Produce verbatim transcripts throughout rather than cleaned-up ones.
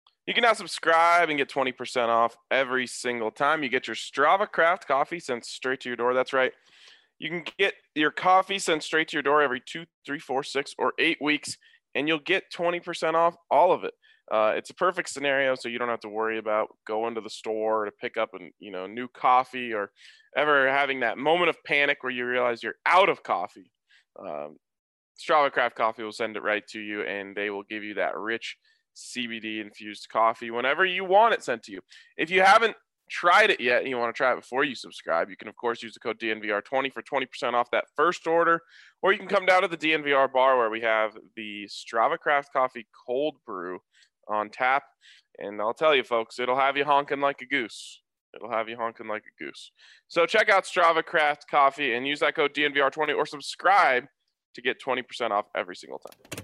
You can now subscribe and get twenty percent off every single time you get your Strava Craft coffee sent straight to your door. That's right. You can get your coffee sent straight to your door every two, three, four, six, or eight weeks, and you'll get twenty percent off all of it. Uh, it's a perfect scenario, so you don't have to worry about going to the store to pick up a you know new coffee or ever having that moment of panic where you realize you're out of coffee. Um, Strava Craft Coffee will send it right to you, and they will give you that rich C B D infused coffee whenever you want it sent to you. If you haven't tried it yet and you want to try it before you subscribe, you can of course use the code D N V R twenty for twenty percent off that first order, or you can come down to the D N V R bar where we have the Strava Craft Coffee cold brew on tap, and I'll tell you folks, it'll have you honking like a goose. It'll have you honking like a goose. So check out Strava Craft Coffee and use that code D N V R twenty or subscribe to get twenty percent off every single time.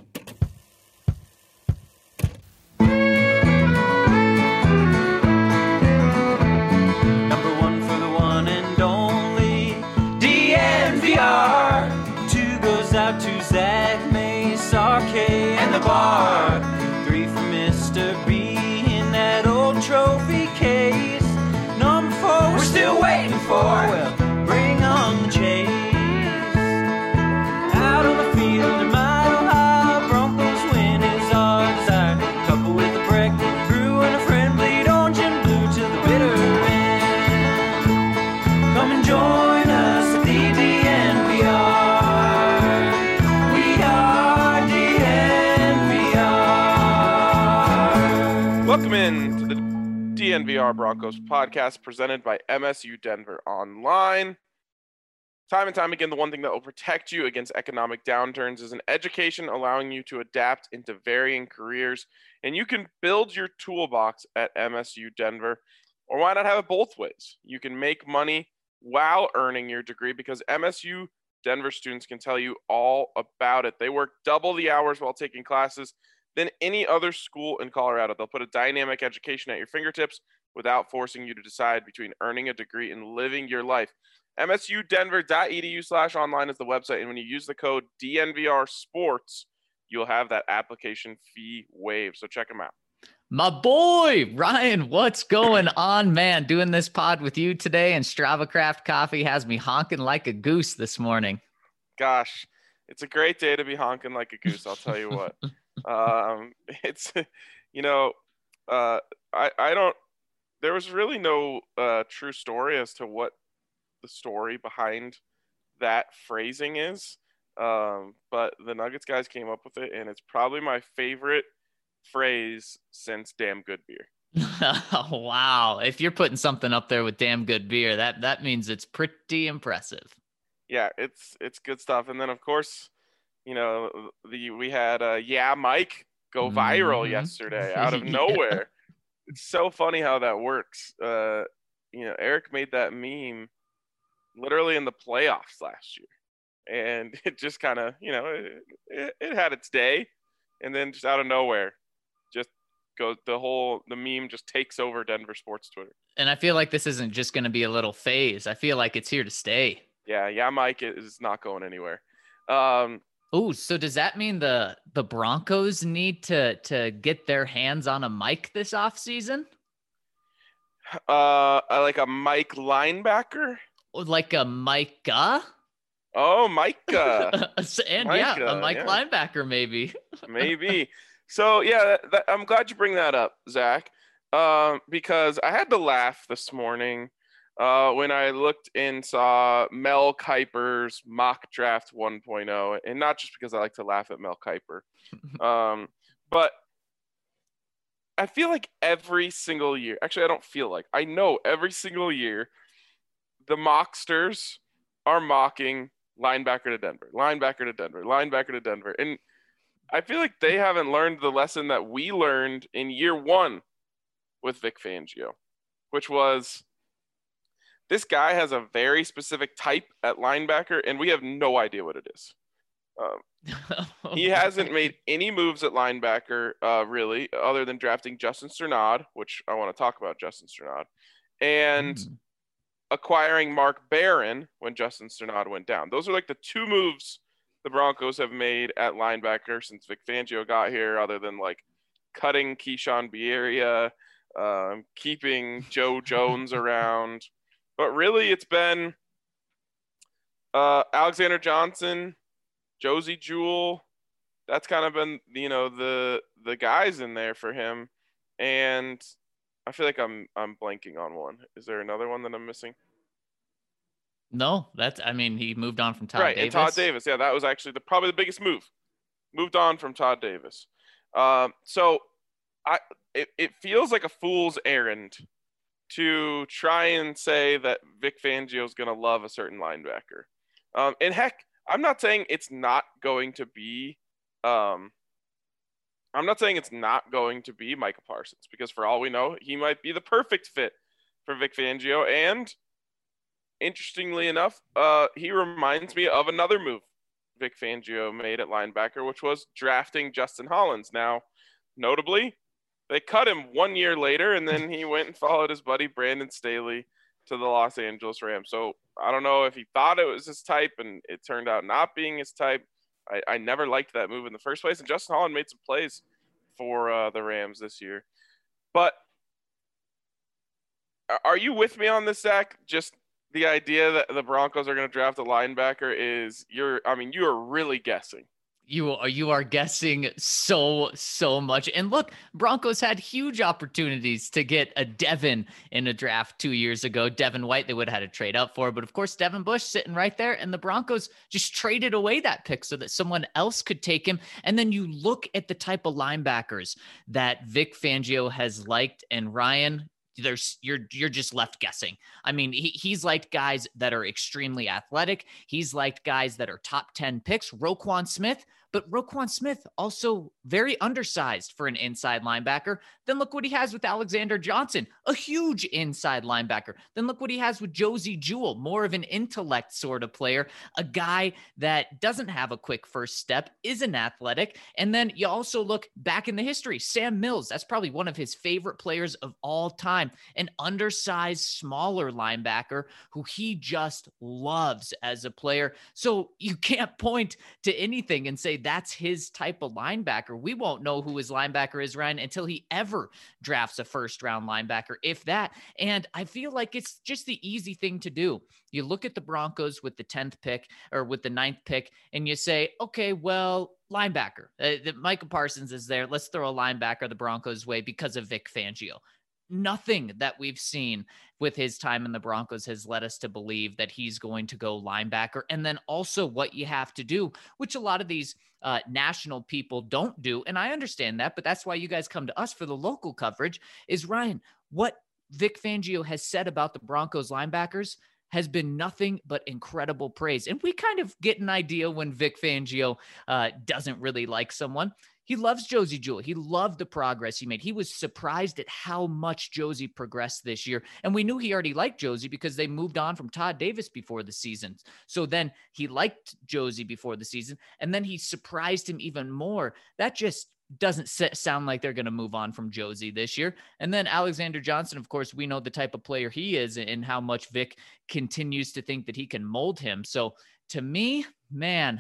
Out to Zach, Mace, R K, and the bar. Three for Mister B in that old trophy case. Number four, we're still waiting for. Well, bring on the chase. Out on the field in Mile High, Broncos win is our desire. Couple with a break, brew and a friend, bleed orange and blue to the bitter end. Come and join us at the D N V R. Welcome in to the D N V R Broncos podcast presented by M S U Denver Online. Time and time again, the one thing that will protect you against economic downturns is an education allowing you to adapt into varying careers. And you can build your toolbox at M S U Denver, or why not have it both ways? You can make money while earning your degree because M S U Denver students can tell you all about it. They work double the hours while taking classes than any other school in Colorado. They'll put a dynamic education at your fingertips without forcing you to decide between earning a degree and living your life. M S U Denver dot E D U slash online is the website, and when you use the code D N V R Sports, you'll have that application fee waived. So check them out. My boy, Ryan, what's going on, man? Doing this pod with you today, and Strava Craft Coffee has me honking like a goose this morning. Gosh, it's a great day to be honking like a goose, I'll tell you what. um it's you know uh i i don't there was really no uh true story as to what the story behind that phrasing is, um but the Nuggets guys came up with it, and it's probably my favorite phrase since damn good beer. Wow, if you're putting something up there with damn good beer, that that means it's pretty impressive. Yeah, it's it's good stuff. And then of course, you know, the we had uh, Yeah Mike go viral mm-hmm. yesterday out of yeah. nowhere. It's so funny how that works. Uh, you know, Eric made that meme literally in the playoffs last year, and it just kind of, you know, it, it, it had its day, and then just out of nowhere, just goes the whole the meme just takes over Denver sports Twitter. And I feel like this isn't just going to be a little phase. I feel like it's here to stay. Yeah, Yeah Mike is not going anywhere. Um, Oh, so does that mean the the Broncos need to to get their hands on a mic this offseason? Uh, like a Mike linebacker? Like a Micah? Oh, Micah. and Micah, yeah, a Mike yeah. linebacker maybe. Maybe. So, yeah, that, that, I'm glad you bring that up, Zach, um, because I had to laugh this morning Uh, when I looked and saw Mel Kiper's mock draft one point oh, and not just because I like to laugh at Mel Kiper, um, but I feel like every single year, actually I don't feel like, I know every single year, the mocksters are mocking linebacker to Denver, linebacker to Denver, linebacker to Denver. And I feel like they haven't learned the lesson that we learned in year one with Vic Fangio, which was, this guy has a very specific type at linebacker, and we have no idea what it is. Um, he hasn't made any moves at linebacker, uh, really, other than drafting Justin Strnad, which I want to talk about Justin Strnad, and mm. acquiring Mark Barron when Justin Strnad went down. Those are like the two moves the Broncos have made at linebacker since Vic Fangio got here, other than like cutting Keyshawn Bierria, um, keeping Joe Jones around. But really, it's been uh, Alexander Johnson, Josie Jewell. That's kind of been, you know, the the guys in there for him. And I feel like I'm I'm blanking on one. Is there another one that I'm missing? No, that's, I mean, he moved on from Todd Right, Davis. and Todd Davis. Yeah, that was actually the probably the biggest move. Moved on from Todd Davis. Um, so I it, it feels like a fool's errand to try and say that Vic Fangio is going to love a certain linebacker. Um, and heck, I'm not saying it's not going to be um, I'm not saying it's not going to be Micah Parsons, because for all we know, he might be the perfect fit for Vic Fangio. And interestingly enough, uh, he reminds me of another move Vic Fangio made at linebacker, which was drafting Justin Hollins. Now, notably, they cut him one year later, and then he went and followed his buddy Brandon Staley to the Los Angeles Rams. So I don't know if he thought it was his type and it turned out not being his type. I, I never liked that move in the first place. And Justin Holland made some plays for uh, the Rams this year. But are you with me on this, Zach? Just the idea that the Broncos are going to draft a linebacker is you're, I mean, you are really guessing. You are, you are guessing so, so much. And look, Broncos had huge opportunities to get a Devin in a draft two years ago. Devin White, they would have had to trade up for. But of course, Devin Bush sitting right there. And the Broncos just traded away that pick so that someone else could take him. And then you look at the type of linebackers that Vic Fangio has liked. And Ryan, there's you're you're just left guessing. I mean, he, he's liked guys that are extremely athletic. He's liked guys that are top ten picks. Roquan Smith, but Roquan Smith also very undersized for an inside linebacker. Then look what he has with Alexander Johnson, a huge inside linebacker. Then look what he has with Josie Jewell, more of an intellect sort of player, a guy that doesn't have a quick first step, isn't athletic. And then you also look back in the history, Sam Mills, that's probably one of his favorite players of all time, an undersized, smaller linebacker who he just loves as a player. So you can't point to anything and say that's his type of linebacker. We won't know who his linebacker is, Ryan, until he ever drafts a first round linebacker, if that. And I feel like it's just the easy thing to do. You look at the Broncos with the tenth pick or with the ninth pick and you say, okay, well, linebacker, uh, the Micah Parsons is there. Let's throw a linebacker the Broncos way because of Vic Fangio. Nothing that we've seen with his time in the Broncos has led us to believe that he's going to go linebacker. And then also what you have to do, which a lot of these uh, national people don't do. And I understand that, but that's why you guys come to us for the local coverage is, Ryan, what Vic Fangio has said about the Broncos linebackers has been nothing but incredible praise. And we kind of get an idea when Vic Fangio uh, doesn't really like someone. He loves Josie Jewell. He loved the progress he made. He was surprised at how much Josie progressed this year. And we knew he already liked Josie because they moved on from Todd Davis before the season. So then he liked Josie before the season, and then he surprised him even more. That just doesn't sound like they're going to move on from Josie this year. And then Alexander Johnson, of course, we know the type of player he is and how much Vic continues to think that he can mold him. So to me, man,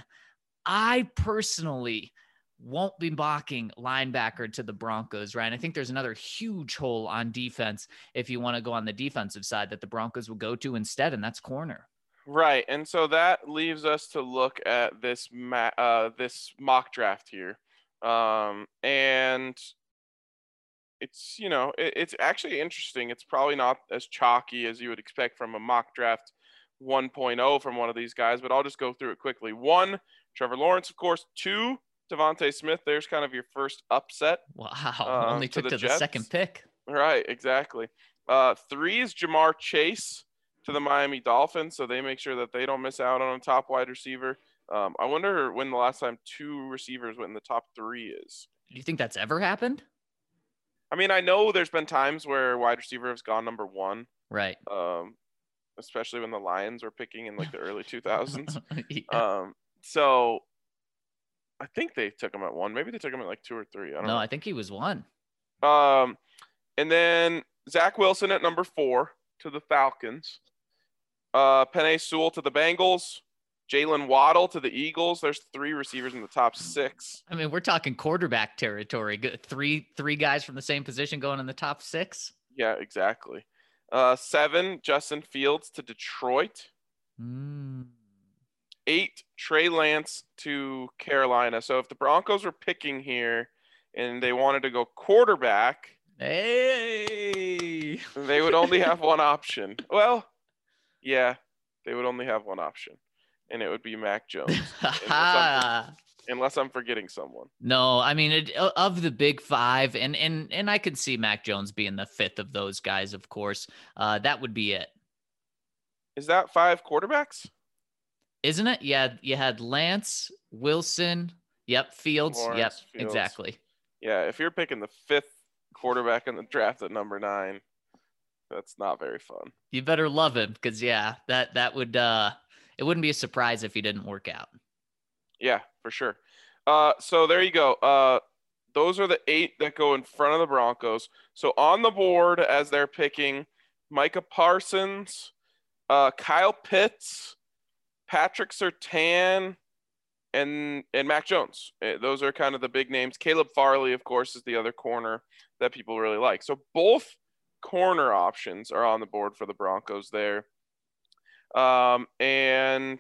I personally won't be mocking linebacker to the Broncos, right? And I think there's another huge hole on defense if you want to go on the defensive side that the Broncos will go to instead, and that's corner. Right, and so that leaves us to look at this ma- uh, this mock draft here, um, and it's you know it, it's actually interesting. It's probably not as chalky as you would expect from a mock draft one point oh from one of these guys, but I'll just go through it quickly. One, Trevor Lawrence, of course. Two, Devontae Smith. There's kind of your first upset. Wow, um, only took to the, to the second pick. Right, exactly. Uh, three is Jamar Chase to the Miami Dolphins, so they make sure that they don't miss out on a top wide receiver. Um, I wonder when the last time two receivers went in the top three is. Do you think that's ever happened? I mean, I know there's been times where wide receiver has gone number one. Right. Um, especially when the Lions were picking in like the early two thousands. Yeah. Um, so I think they took him at one. Maybe they took him at like two or three. I don't no, know. I think he was one. Um, and then Zach Wilson at number four to the Falcons. Uh, Penei Sewell to the Bengals. Jalen Waddle to the Eagles. There's three receivers in the top six. I mean, we're talking quarterback territory. Good- Three three guys from the same position going in the top six. Yeah, exactly. Uh, seven, Justin Fields to Detroit. Mm. Eight, Trey Lance to Carolina. So if the Broncos were picking here and they wanted to go quarterback, Hey. they would only have one option. Well, yeah, they would only have one option, and it would be Mac Jones. unless, I'm, unless I'm forgetting someone. No, I mean, it, of the big five, and and and I could see Mac Jones being the fifth of those guys, of course. Uh, that would be it. Is that five quarterbacks? Isn't it? Yeah, you had Lance, Wilson, yep, Fields, Lawrence, yep, Fields. exactly. Yeah, if you're picking the fifth quarterback in the draft at number nine, that's not very fun. You better love him, because yeah, that that would uh, it wouldn't be a surprise if he didn't work out. Yeah, for sure. Uh, so there you go. Uh, those are the eight that go in front of the Broncos. So on the board as they're picking, Micah Parsons, uh, Kyle Pitts, Patrick Surtain, and and Mac Jones. Those are kind of the big names. Caleb Farley, of course, is the other corner that people really like. So both corner options are on the board for the Broncos there. Um, and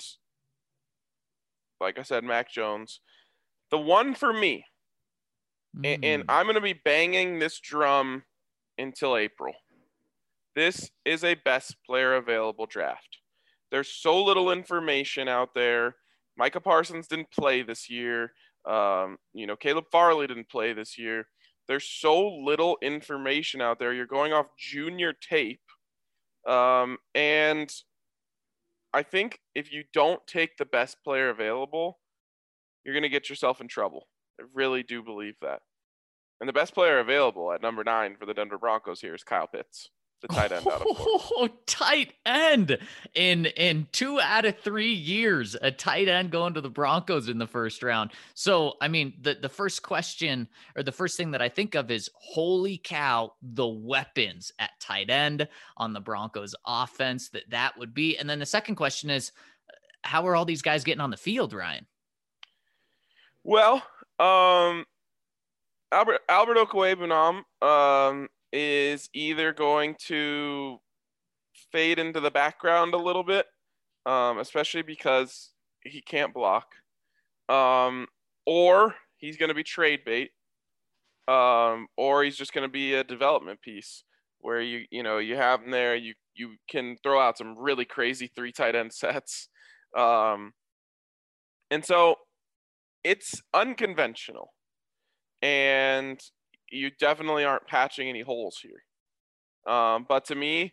like I said, Mac Jones. The one for me, Mm. and, and I'm going to be banging this drum until April. This is a best player available draft. There's so little information out there. Micah Parsons didn't play this year. Um, you know, Caleb Farley didn't play this year. There's so little information out there. You're going off junior tape. Um, and I think if you don't take the best player available, you're going to get yourself in trouble. I really do believe that. And the best player available at number nine for the Denver Broncos here is Kyle Pitts, the tight end out of Florida. Oh, tight end in in two out of three years, a tight end going to the Broncos in the first round. So, I mean, the the first question or the first thing that I think of is, holy cow, the weapons at tight end on the Broncos offense that that would be. And then the second question is, how are all these guys getting on the field, Ryan? Well, um, Albert Albert Okwuegbunam, um, is either going to fade into the background a little bit, um, especially because he can't block, um, or he's going to be trade bait, um, or he's just going to be a development piece where you you know you have him there, you you can throw out some really crazy three tight end sets, um, and so it's unconventional, and you definitely aren't patching any holes here. Um, but to me,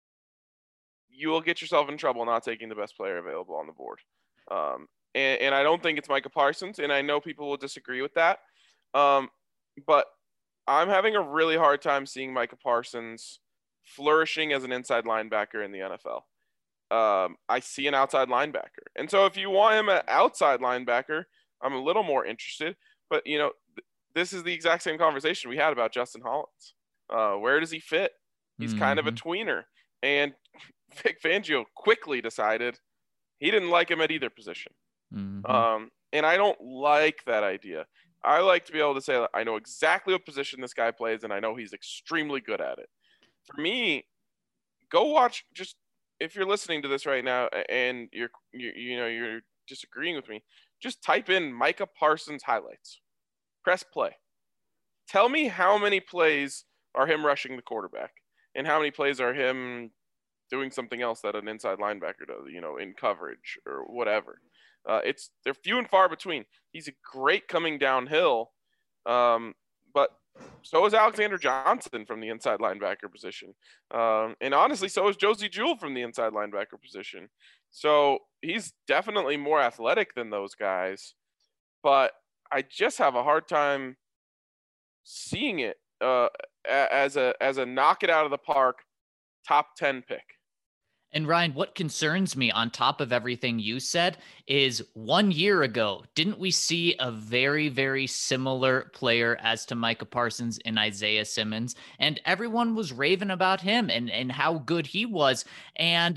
you will get yourself in trouble not taking the best player available on the board. Um, and, and I don't think it's Micah Parsons, and I know people will disagree with that. Um, but I'm having a really hard time seeing Micah Parsons flourishing as an inside linebacker in the N F L. Um, I see an outside linebacker. And so if you want him an outside linebacker, I'm a little more interested. But, you know, th- this is the exact same conversation we had about Justin Hollins. Uh, where does he fit? He's mm-hmm. kind of a tweener. And Vic Fangio quickly decided he didn't like him at either position. Mm-hmm. Um, and I don't like that idea. I like to be able to say, I know exactly what position this guy plays, and I know he's extremely good at it. For me, go watch, just if you're listening to this right now and you're, you, you know, you're disagreeing with me, just type in Micah Parsons highlights. Press play. Tell me how many plays are him rushing the quarterback and how many plays are him doing something else that an inside linebacker does, you know, in coverage or whatever. Uh, it's they're few and far between. He's a great coming downhill, um, but so is Alexander Johnson from the inside linebacker position. Um, and honestly, so is Josie Jewell from the inside linebacker position. So he's definitely more athletic than those guys, but I just have a hard time seeing it uh, as a as a knock it out of the park top ten pick. And Ryan, what concerns me on top of everything you said is one year ago, didn't we see a very, very similar player as to Micah Parsons in Isaiah Simmons? And everyone was raving about him and, and how good he was. And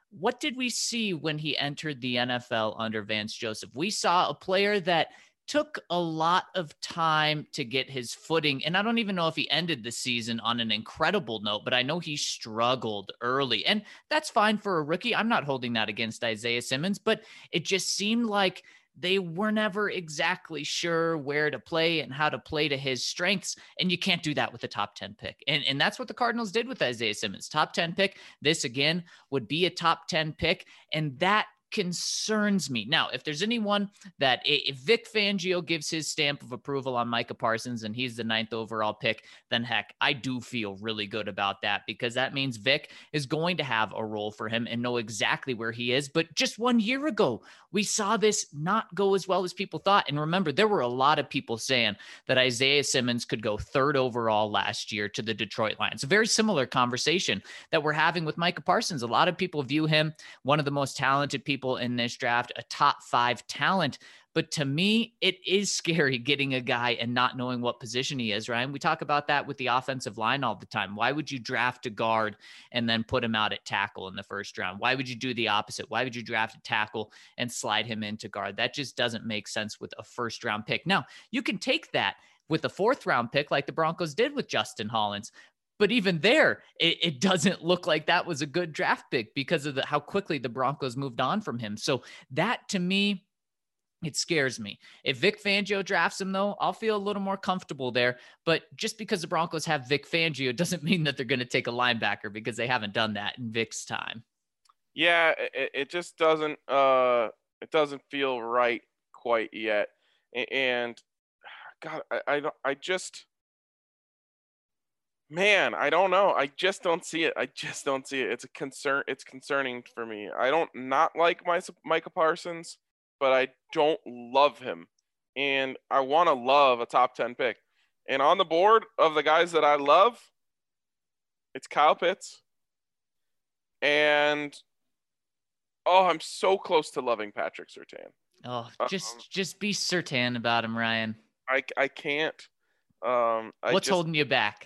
what did we see when he entered the N F L under Vance Joseph? We saw a player that took a lot of time to get his footing. And I don't even know if he ended the season on an incredible note, but I know he struggled early. And that's fine for a rookie. I'm not holding that against Isaiah Simmons, but it just seemed like they were never exactly sure where to play and how to play to his strengths. And you can't do that with a top ten pick. And, and that's what the Cardinals did with Isaiah Simmons. Top ten pick. This again would be a top ten pick. And that concerns me. Now, if there's anyone that if Vic Fangio gives his stamp of approval on Micah Parsons and he's the ninth overall pick, then heck, I do feel really good about that, because that means Vic is going to have a role for him and know exactly where he is. But just one year ago, we saw this not go as well as people thought. And remember, there were a lot of people saying that Isaiah Simmons could go third overall last year to the Detroit Lions. A very similar conversation that we're having with Micah Parsons. A lot of people view him one of the most talented people in this draft, a top five talent. But to me, it is scary getting a guy and not knowing what position he is, Ryan. We talk about that with the offensive line all the time. Why would you draft a guard and then put him out at tackle in the first round? Why would you do the opposite? Why would you draft a tackle and slide him into guard? That just doesn't make sense with a first round pick. Now, you can take that with a fourth round pick like the Broncos did with Justin Hollins. But even there, it, it doesn't look like that was a good draft pick because of the, how quickly the Broncos moved on from him. So that, to me, it scares me. If Vic Fangio drafts him, though, I'll feel a little more comfortable there. But just because the Broncos have Vic Fangio doesn't mean that they're going to take a linebacker, because they haven't done that in Vic's time. Yeah, it, it just doesn't uh, it doesn't feel right quite yet. And God, I I, don't, I just. Man, I don't know. I just don't see it. I just don't see it. It's a concern. It's concerning for me. I don't not like my Micah Parsons, but I don't love him, and I want to love a top ten pick. And on the board of the guys that I love, it's Kyle Pitts, and oh, I'm so close to loving Patrick Surtain. Oh, just um, just be Surtain about him, Ryan. I I can't. Um, I What's just, holding you back?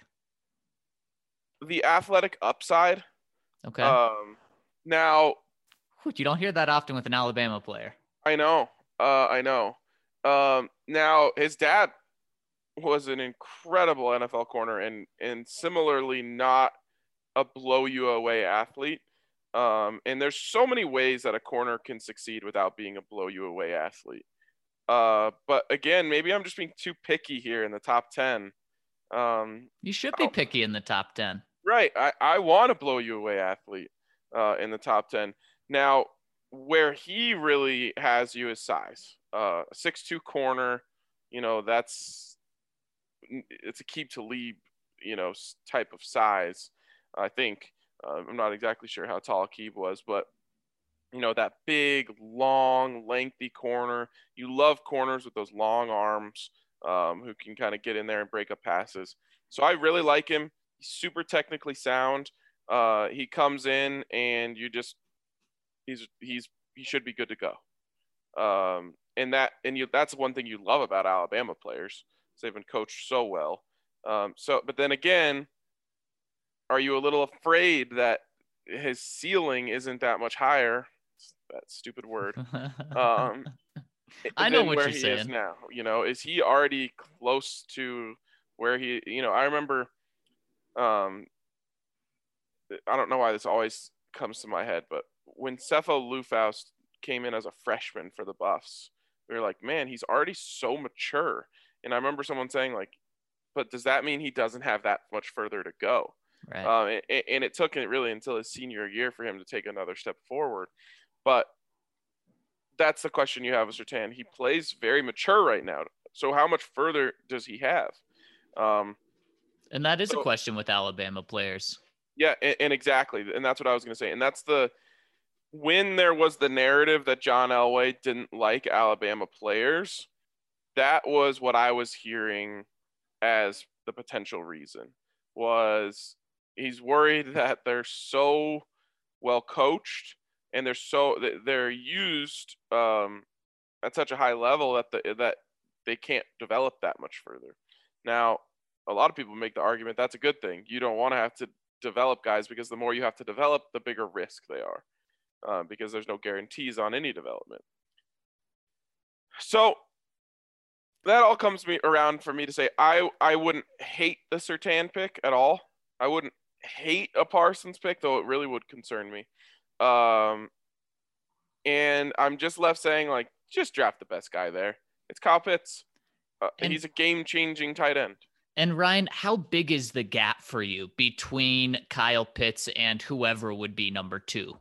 The athletic upside. Okay. Um, now, you don't hear that often with an Alabama player. I know. Uh, I know. Um, now, his dad was an incredible N F L corner and and similarly not a blow you away athlete. Um, and there's so many ways that a corner can succeed without being a blow you away athlete. Uh, but again, maybe I'm just being too picky here in the top ten. Um, you should be picky in the top ten. Right. I, I want to blow you away athlete uh, in the top ten. Now, where he really has you is size. Uh, a six two corner, you know, that's it's a keep to leave, you know, type of size, I think. Uh, I'm not exactly sure how tall Aqib was, but, you know, that big, long, lengthy corner. You love corners with those long arms um, who can kind of get in there and break up passes. So I really like him. He's super technically sound. Uh, he comes in and you just he's he's he should be good to go. Um, and that and you that's one thing you love about Alabama players. They've been coached so well. Um, so, but then again, are you a little afraid that his ceiling isn't that much higher? That stupid word. Um, I know what where you're he saying. is now. You know, is he already close to where he? You know, I remember. Um, I don't know why this always comes to my head, but when Sefo Liufau came in as a freshman for the Buffs, we were like, man, he's already so mature. And I remember someone saying, like, but does that mean he doesn't have that much further to go? Right. Um, and, and it took it really until his senior year for him to take another step forward. But that's the question you have with Surtain. He plays very mature right now. So how much further does he have? Um, and that is so, a question with Alabama players. Yeah, and, and exactly. And that's what I was going to say. And that's the – when there was the narrative that John Elway didn't like Alabama players, that was what I was hearing as the potential reason, was he's worried that they're so well coached and they're so they're used um, at such a high level that the, that they can't develop that much further. Now, a lot of people make the argument that's a good thing. You don't want to have to develop guys because the more you have to develop, the bigger risk they are. uh, because there's no guarantees on any development. So that all comes me around for me to say I I wouldn't hate the Surtain pick at all. I wouldn't hate a Parsons pick, though it really would concern me. Um, and I'm just left saying, like, just draft the best guy there. It's Kyle Pitts. Uh, And- he's a game-changing tight end. And Ryan, how big is the gap for you between Kyle Pitts and whoever would be number two?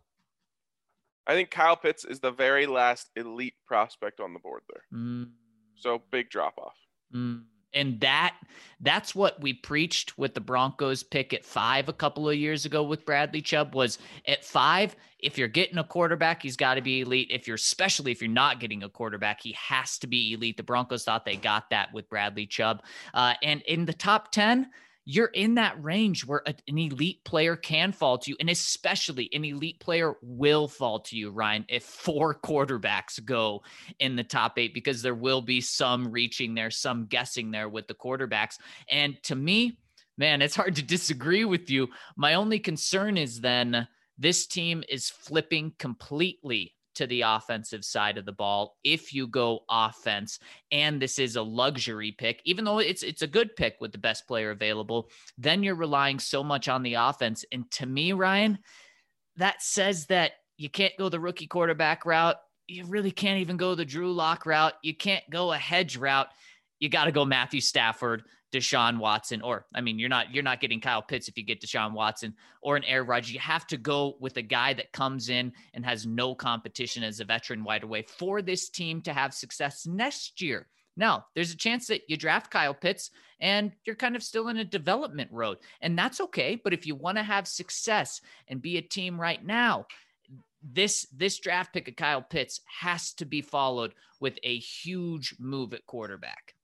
I think Kyle Pitts is the very last elite prospect on the board there. Mm. So big drop off. Mm. And that that's what we preached with the Broncos pick at five a couple of years ago with Bradley Chubb was at five. If you're getting a quarterback, he's got to be elite. If you're especially if you're not getting a quarterback, he has to be elite. The Broncos thought they got that with Bradley Chubb. Uh, and in the top ten, you're in that range where a, an elite player can fall to you. And especially an elite player will fall to you, Ryan, if four quarterbacks go in the top eight, because there will be some reaching there, some guessing there with the quarterbacks. And to me, man, it's hard to disagree with you. My only concern is then this team is flipping completely to the offensive side of the ball if you go offense, and this is a luxury pick, even though it's it's a good pick with the best player available, then you're relying so much on the offense. And to me, Ryan, that says that you can't go the rookie quarterback route. You really can't even go the Drew Lock route. You can't go a hedge route. You got to go Matthew Stafford, Deshaun Watson, or I mean, you're not you're not getting Kyle Pitts if you get Deshaun Watson or an Aaron Rodgers. You have to go with a guy that comes in and has no competition as a veteran wide away for this team to have success next year. Now, there's a chance that you draft Kyle Pitts and you're kind of still in a development road, and that's okay. But if you want to have success and be a team right now, this this draft pick of Kyle Pitts has to be followed with a huge move at quarterback.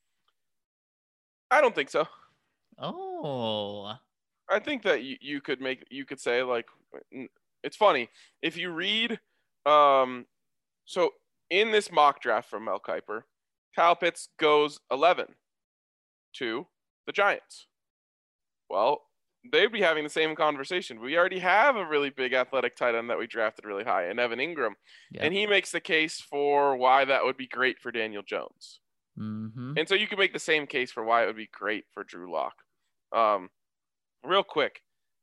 I don't think so. Oh, I think that you, you could make you could say like it's funny if you read um so in this mock draft from Mel Kiper, Kyle Pitts goes eleven to the Giants. Well, they'd be having the same conversation. We already have a really big athletic tight end that we drafted really high, and Evan Ingram, yeah. and he makes the case for why that would be great for Daniel Jones. Mm-hmm. And so you can make the same case for why it would be great for Drew Lock. Um, real quick,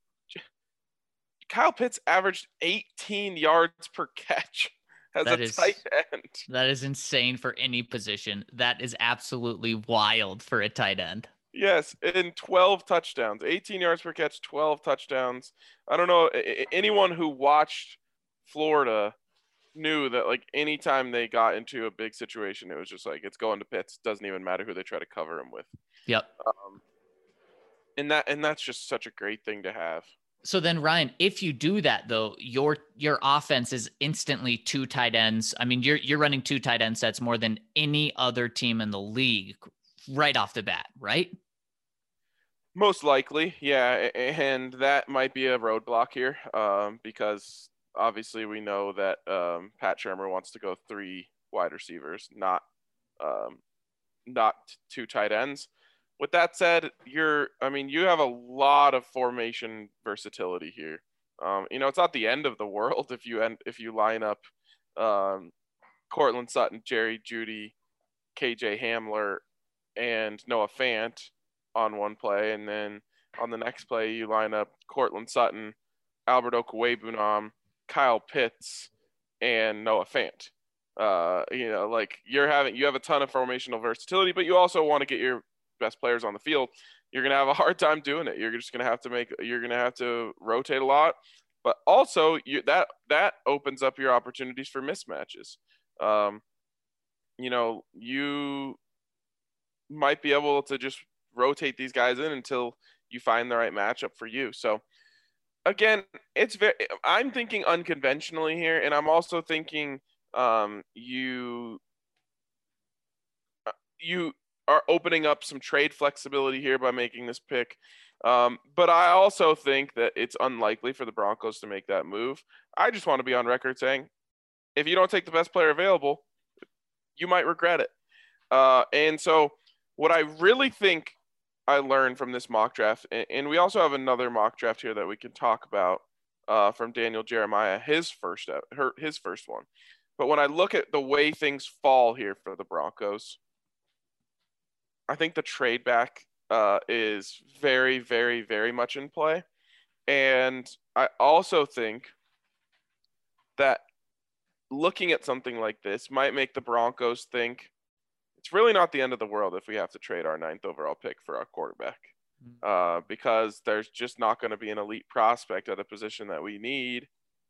Kyle Pitts averaged eighteen yards per catch as That a is- tight end. That is insane for any position. That is absolutely wild for a tight end. Yes, and twelve touchdowns, eighteen yards per catch, twelve touchdowns. I don't know, anyone who watched Florida knew that like anytime they got into a big situation, it was just like it's going to Pitts. Doesn't even matter who they try to cover him with. Yep. Um, and that and that's just such a great thing to have. So then, Ryan, if you do that though, your your offense is instantly two tight ends. I mean, you're you're running two tight end sets more than any other team in the league right off the bat, right? Most likely, yeah, and that might be a roadblock here, um, because obviously we know that um, Pat Shurmur wants to go three wide receivers, not um, not two tight ends. With that said, you're, I mean, you have a lot of formation versatility here. Um, you know, it's not the end of the world if you end if you line up um, Cortland Sutton, Jerry Jeudy, K J Hamler, and Noah Fant on one play, and then on the next play you line up Cortland Sutton, Albert Okwuegbunam, Kyle Pitts, and Noah Fant. Uh, you know, like you're having you have a ton of formational versatility, but you also want to get your best players on the field. You're gonna have a hard time doing it. You're just gonna have to make you're gonna have to rotate a lot, but also you that that opens up your opportunities for mismatches. Um, you know, you might be able to just rotate these guys in until you find the right matchup for you. So again, it's very, I'm thinking unconventionally here. And I'm also thinking um, you, you are opening up some trade flexibility here by making this pick. Um, but I also think that it's unlikely for the Broncos to make that move. I just want to be on record saying, if you don't take the best player available, you might regret it. Uh, and so what I really think I learned from this mock draft, and, and we also have another mock draft here that we can talk about uh, from Daniel Jeremiah, his first her, his first one. But when I look at the way things fall here for the Broncos, I think the trade back uh, is very, very, very much in play. And I also think that looking at something like this might make the Broncos think it's really not the end of the world if we have to trade our ninth overall pick for our quarterback. Uh, because there's just not going to be an elite prospect at a position that we need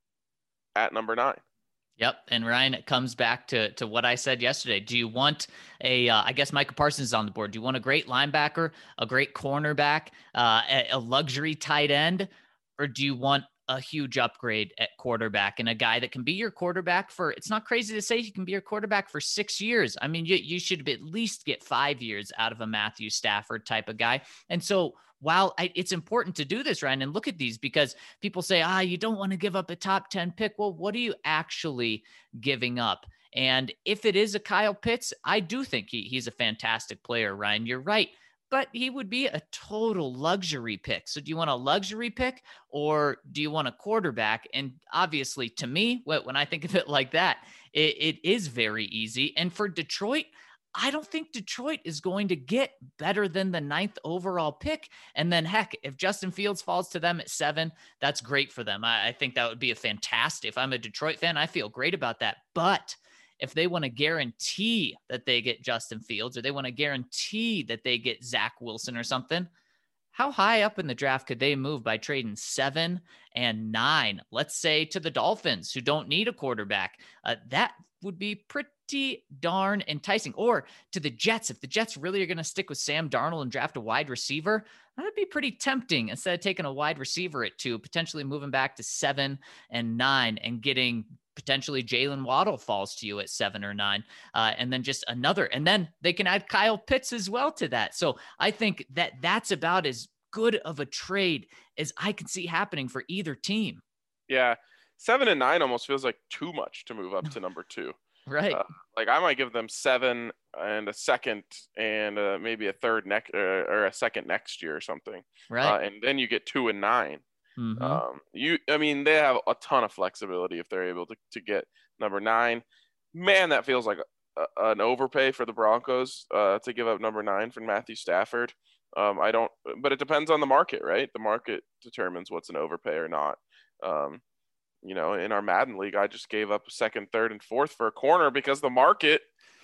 at number nine. Yep. And Ryan, it comes back to, to what I said yesterday. Do you want a, uh, I guess Micah Parsons is on the board. Do you want a great linebacker, a great cornerback, uh, a, a luxury tight end, or do you want a huge upgrade at quarterback and a guy that can be your quarterback for, it's not crazy to say he can be your quarterback for six years. I mean, you, you should at least get five years out of a Matthew Stafford type of guy. And so while I, it's important to do this, Ryan, and look at these, because people say, ah, you don't want to give up a top ten pick. Well, what are you actually giving up? And if it is a Kyle Pitts, I do think he, he's a fantastic player, Ryan. You're right. But he would be a total luxury pick. So do you want a luxury pick or do you want a quarterback? And obviously, to me, when I think of it like that, it, it is very easy. And for Detroit, I don't think Detroit is going to get better than the ninth overall pick. And then, heck, if Justin Fields falls to them at seven, that's great for them. I, I think that would be a fantastic. If I'm a Detroit fan, I feel great about that. But if they want to guarantee that they get Justin Fields, or they want to guarantee that they get Zach Wilson or something, how high up in the draft could they move by trading seven and nine, let's say, to the Dolphins, who don't need a quarterback? Uh, that would be pretty darn enticing. Or to the Jets, if the Jets really are going to stick with Sam Darnold and draft a wide receiver, that would be pretty tempting. Instead of taking a wide receiver at two, potentially moving back to seven and nine and getting potentially Jalen Waddle falls to you at seven or nine, uh, and then just another, and then they can add Kyle Pitts as well to that. So I think that that's about as good of a trade as I can see happening for either team. Yeah. Seven and nine almost feels like too much to move up to number two. Right. Uh, like I might give them seven and a second and uh, maybe a third next uh, or a second next year or something. Right. Uh, and then you get two and nine. Mm-hmm. Um, you, I mean, they have a ton of flexibility if they're able to, to get number nine. Man, that feels like a, a, an overpay for the Broncos uh, to give up number nine for Matthew Stafford. Um, I don't, but it depends on the market, right? The market determines what's an overpay or not. Um, you know, in our Madden league, I just gave up a second, third, and fourth for a corner because the market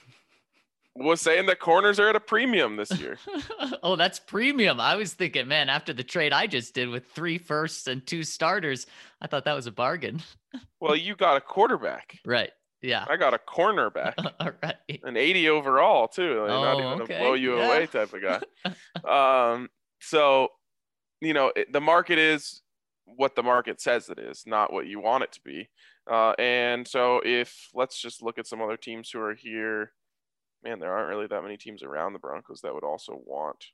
was saying that corners are at a premium this year. Oh, that's premium. I was thinking, man, after the trade I just did with three firsts and two starters, I thought that was a bargain. Well, you got a quarterback. Right. Yeah. I got a cornerback. All right. An eighty overall, too. Like, Oh, not even okay. a blow you Yeah. away type of guy. um, so, you know, it, the market is what the market says it is, not what you want it to be. Uh, and so if, let's just look at some other teams who are here. Man, there aren't really that many teams around the Broncos that would also want.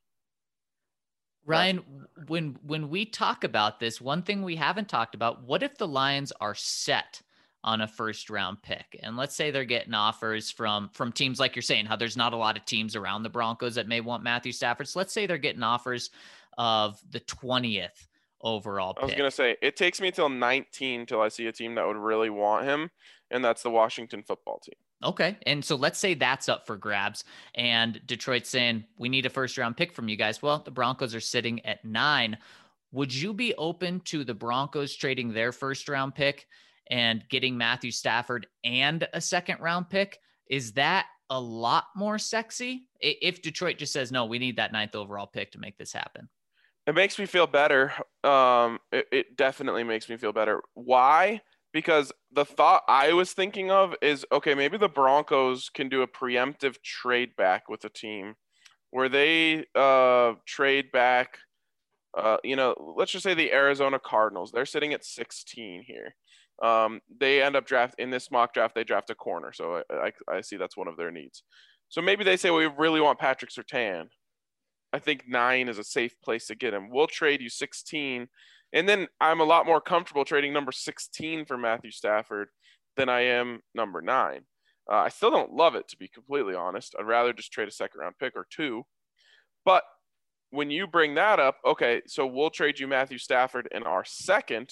Ryan, when when we talk about this, one thing we haven't talked about, what if the Lions are set on a first round pick? And let's say they're getting offers from from teams like you're saying, how there's not a lot of teams around the Broncos that may want Matthew Stafford. So let's say they're getting offers of the twentieth overall pick. I was going to say, it takes me till nineteen till I see a team that would really want him, and that's the Washington football team. Okay. And so let's say that's up for grabs and Detroit's saying, we need a first round pick from you guys. Well, the Broncos are sitting at nine. Would you be open to the Broncos trading their first round pick and getting Matthew Stafford and a second round pick? Is that a lot more sexy if Detroit just says, no, we need that ninth overall pick to make this happen? It makes me feel better. Um, it, it definitely makes me feel better. Why? Because the thought I was thinking of is, okay, maybe the Broncos can do a preemptive trade back with a team where they uh, trade back, uh, you know, let's just say the Arizona Cardinals. They're sitting at sixteen here. Um, they end up draft in this mock draft, they draft a corner. So I, I, I see that's one of their needs. So maybe they say, well, we really want Patrick Surtain. I think nine is a safe place to get him. We'll trade you sixteen. And then I'm a lot more comfortable trading number sixteen for Matthew Stafford than I am number nine. Uh, I still don't love it, to be completely honest. I'd rather just trade a second round pick or two. But when you bring that up, okay, so we'll trade you Matthew Stafford in our second,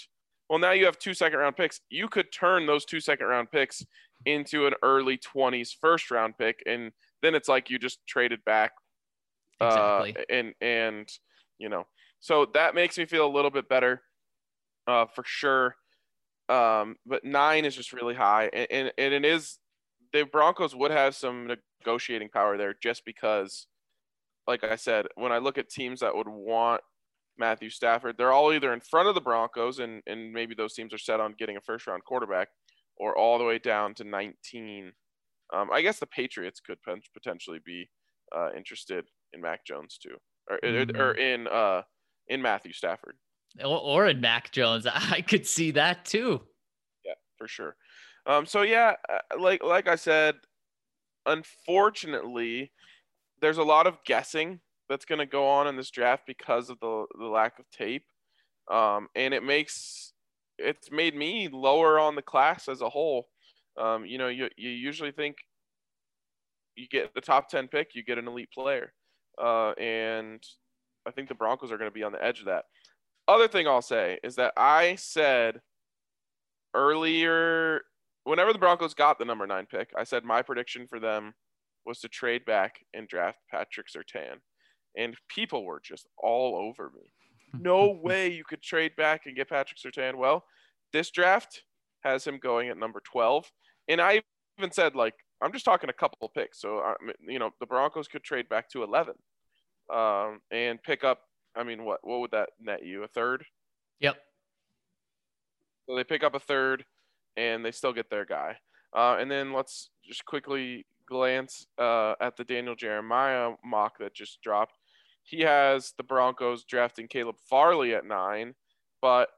Well, now you have two second round picks. You could turn those two second round picks into an early twenties first round pick, and then it's like you just traded back. Exactly. Uh, and and you know, so that makes me feel a little bit better, uh, for sure. Um, but nine is just really high, and, and and it is the Broncos would have some negotiating power there just because, like I said, when I look at teams that would want Matthew Stafford, they're all either in front of the Broncos, and and maybe those teams are set on getting a first round quarterback, or all the way down to nineteen. Um, I guess the Patriots could potentially be uh, interested in Mac Jones too, or mm-hmm. or in uh in Matthew Stafford, or, or in Mac Jones. I could see that too. Yeah, for sure. Um, so yeah, like like I said, unfortunately, there's a lot of guessing that's going to go on in this draft because of the the lack of tape, um, and it makes it's made me lower on the class as a whole. Um, you know, you you usually think you get the top ten pick, you get an elite player, uh, and I think the Broncos are going to be on the edge of that. Other thing I'll say is that I said earlier, whenever the Broncos got the number nine pick, I said my prediction for them was to trade back and draft Patrick Surtain. And people were just all over me. No way you could trade back and get Patrick Surtain. Well, this draft has him going at number twelve. And I even said, like, I'm just talking a couple of picks. So, you know, the Broncos could trade back to eleven um, and pick up, I mean, what, what would that net you? A third? Yep. So they pick up a third and they still get their guy. Uh, and then let's just quickly glance uh, at the Daniel Jeremiah mock that just dropped. He has the Broncos drafting Caleb Farley at nine, but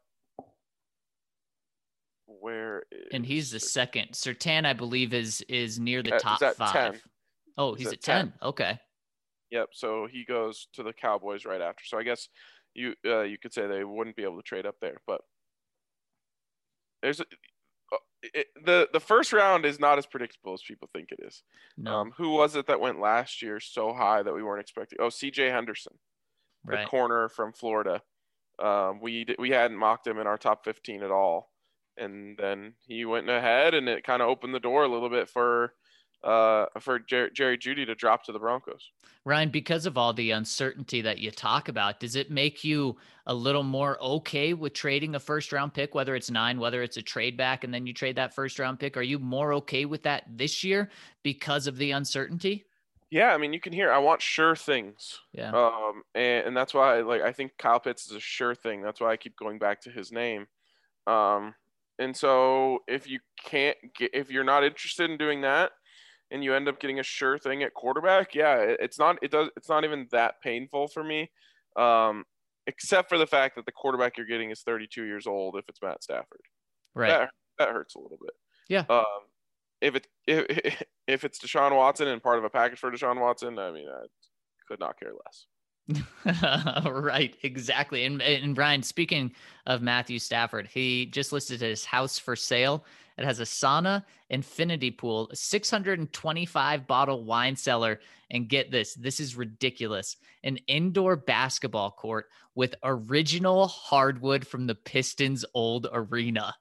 where is and he's the second. Surtain, I believe, is is near the uh, top five. ten. Oh, he's, he's at, at ten. ten. Okay. Yep. So he goes to the Cowboys right after. So I guess you uh, you could say they wouldn't be able to trade up there, but there's a, it, the the first round is not as predictable as people think it is. No. Um, who was it that went last year so high that we weren't expecting? Oh, C J Henderson, right. the corner from Florida. Um, we we hadn't mocked him in our top fifteen at all, and then he went ahead, and it kind of opened the door a little bit for uh for Jer- Jerry Jeudy to drop to the Broncos. Ryan, because of all the uncertainty that you talk about, does it make you a little more okay with trading a first round pick, whether it's nine, whether it's a trade back, and then you trade that first round pick? Are you more okay with that this year because of the uncertainty? Yeah, I mean, you can hear I want sure things. Yeah. Um, and, and that's why, like, I think Kyle Pitts is a sure thing. That's why I keep going back to his name. Um, and so if you can't get, if you're not interested in doing that, and you end up getting a sure thing at quarterback, yeah, it, it's not it does it's not even that painful for me, um, except for the fact that the quarterback you're getting is thirty-two years old. If it's Matt Stafford, right, that, that hurts a little bit. Yeah. Um, if it if if it's Deshaun Watson and part of a package for Deshaun Watson, I mean, I could not care less. Right, exactly. And and Brian, speaking of Matthew Stafford, he just listed his house for sale. It has a sauna, infinity pool, a six hundred twenty-five bottle wine cellar, and get this, this is ridiculous, an indoor basketball court with original hardwood from the Pistons' old arena.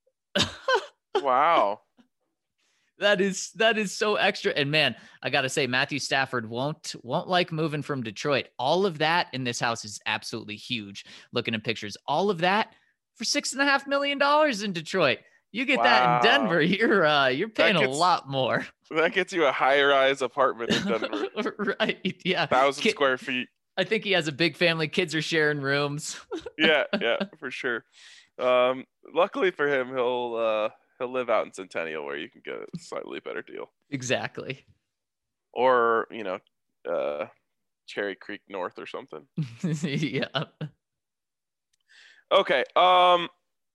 Wow. That is that is so extra. And man, I gotta say, Matthew Stafford won't won't like moving from Detroit. All of that in this house is absolutely huge. Looking at pictures, all of that for six and a half million dollars in Detroit. You get wow. that in Denver, you're uh, you're paying gets, a lot more. That gets you a high-rise apartment in Denver. Right? Yeah, thousand Kid, square feet. I think he has a big family. Kids are sharing rooms. yeah, yeah, for sure. Um, luckily for him, he'll uh, he'll live out in Centennial where you can get a slightly better deal. Exactly. Or you know, uh, Cherry Creek North or something. Yeah. Okay. Um.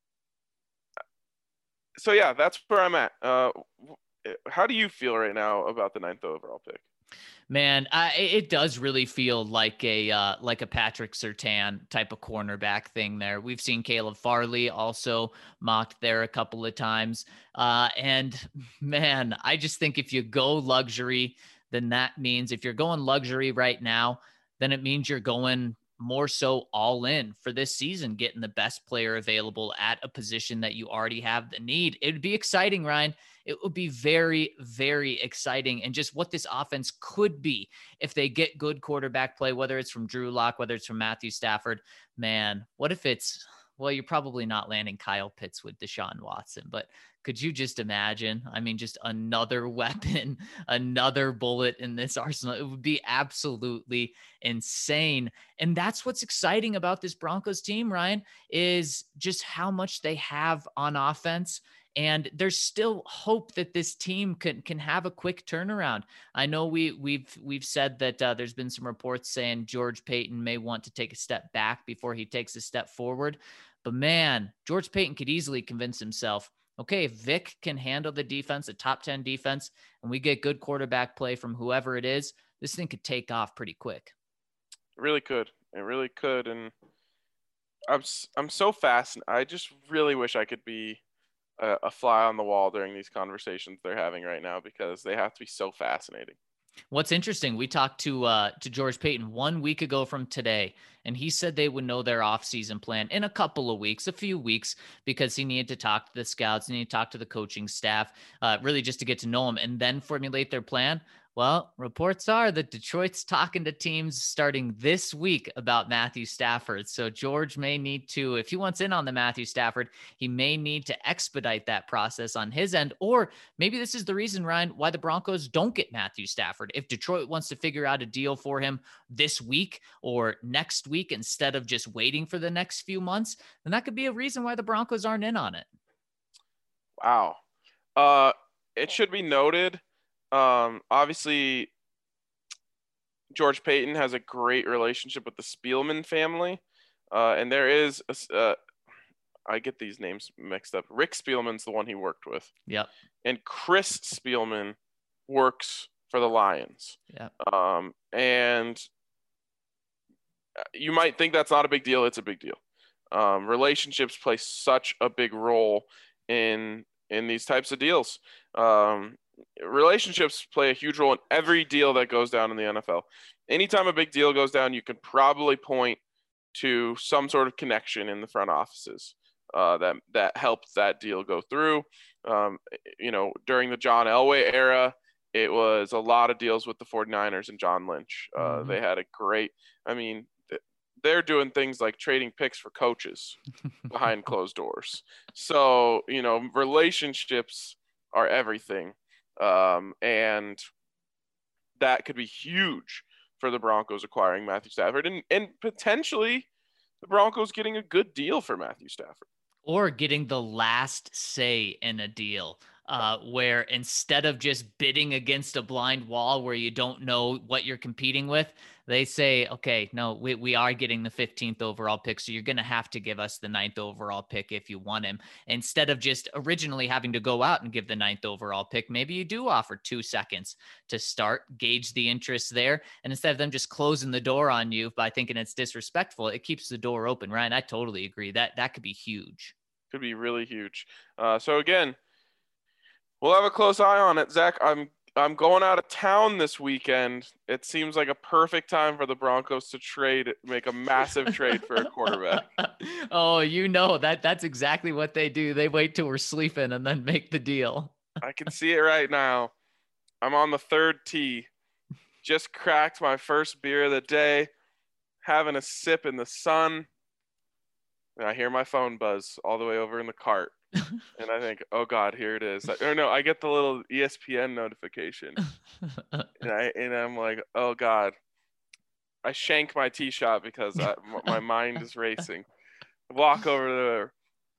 So yeah, that's where I'm at. Uh, how do you feel right now about the ninth overall pick? Man, I, it does really feel like a uh, like a Patrick Surtain type of cornerback thing there. We've seen Caleb Farley also mocked there a couple of times. Uh, and man, I just think if you go luxury, then that means if you're going luxury right now, then it means you're going more so all in for this season, getting the best player available at a position that you already have the need. It would be exciting, Ryan. It would be very, very exciting. And just what this offense could be if they get good quarterback play, whether it's from Drew Lock, whether it's from Matthew Stafford, man, what if it's, well, you're probably not landing Kyle Pitts with Deshaun Watson, but could you just imagine? I mean, just another weapon, another bullet in this arsenal. It would be absolutely insane. And that's what's exciting about this Broncos team, Ryan, is just how much they have on offense. And there's still hope that this team can can have a quick turnaround. I know we we've we've said that uh, there's been some reports saying George Paton may want to take a step back before he takes a step forward. But man, George Paton could easily convince himself, okay, if Vic can handle the defense, a top ten defense, and we get good quarterback play from whoever it is, this thing could take off pretty quick. It really could. It really could. And I'm I'm so fascinated. I just really wish I could be a, a fly on the wall during these conversations they're having right now, because they have to be so fascinating. What's interesting, we talked to uh, to George Paton one week ago from today, and he said they would know their offseason plan in a couple of weeks, a few weeks, because he needed to talk to the scouts, needed to talk to the coaching staff, uh, really just to get to know them and then formulate their plan. Well, reports are that Detroit's talking to teams starting this week about Matthew Stafford. So George may need to, if he wants in on the Matthew Stafford, he may need to expedite that process on his end. Or maybe this is the reason, Ryan, why the Broncos don't get Matthew Stafford. If Detroit wants to figure out a deal for him this week or next week instead of just waiting for the next few months, then that could be a reason why the Broncos aren't in on it. Wow. Uh, it should be noted, Um, obviously, George Paton has a great relationship with the Spielman family, uh, and there is, a, uh, I get these names mixed up. Rick Spielman's the one he worked with. Yep. And Chris Spielman works for the Lions. Yep. Um, and you might think that's not a big deal. It's a big deal. Um, relationships play such a big role in in these types of deals. Um, relationships play a huge role in every deal that goes down in the N F L. Anytime a big deal goes down, you can probably point to some sort of connection in the front offices uh, that that helped that deal go through. Um, you know, during the John Elway era, it was a lot of deals with the 49ers and John Lynch. Uh, mm-hmm. They had a great, I mean, they're doing things like trading picks for coaches behind closed doors. So, you know, relationships are everything. Um, and that could be huge for the Broncos acquiring Matthew Stafford and, and potentially the Broncos getting a good deal for Matthew Stafford. Or getting the last say in a deal. Uh, where instead of just bidding against a blind wall where you don't know what you're competing with, they say, okay, no, we, we are getting the fifteenth overall pick, so you're going to have to give us the ninth overall pick if you want him. Instead of just originally having to go out and give the ninth overall pick, maybe you do offer two seconds to start, gauge the interest there, and instead of them just closing the door on you by thinking it's disrespectful, it keeps the door open. Ryan, I totally agree. That, that could be huge. Could be really huge. Uh, so again, we'll have a close eye on it. Zach, I'm I'm going out of town this weekend. It seems like a perfect time for the Broncos to trade, make a massive trade for a quarterback. Oh, you know, that that's exactly what they do. They wait till we're sleeping and then make the deal. I can see it right now. I'm on the third tee. Just cracked my first beer of the day, having a sip in the sun. And I hear my phone buzz all the way over in the cart. And I think, oh God, here it is. Or no, I get the little E S P N notification, and I and I'm like, oh God. I shank my tee shot because I, my mind is racing. Walk over there.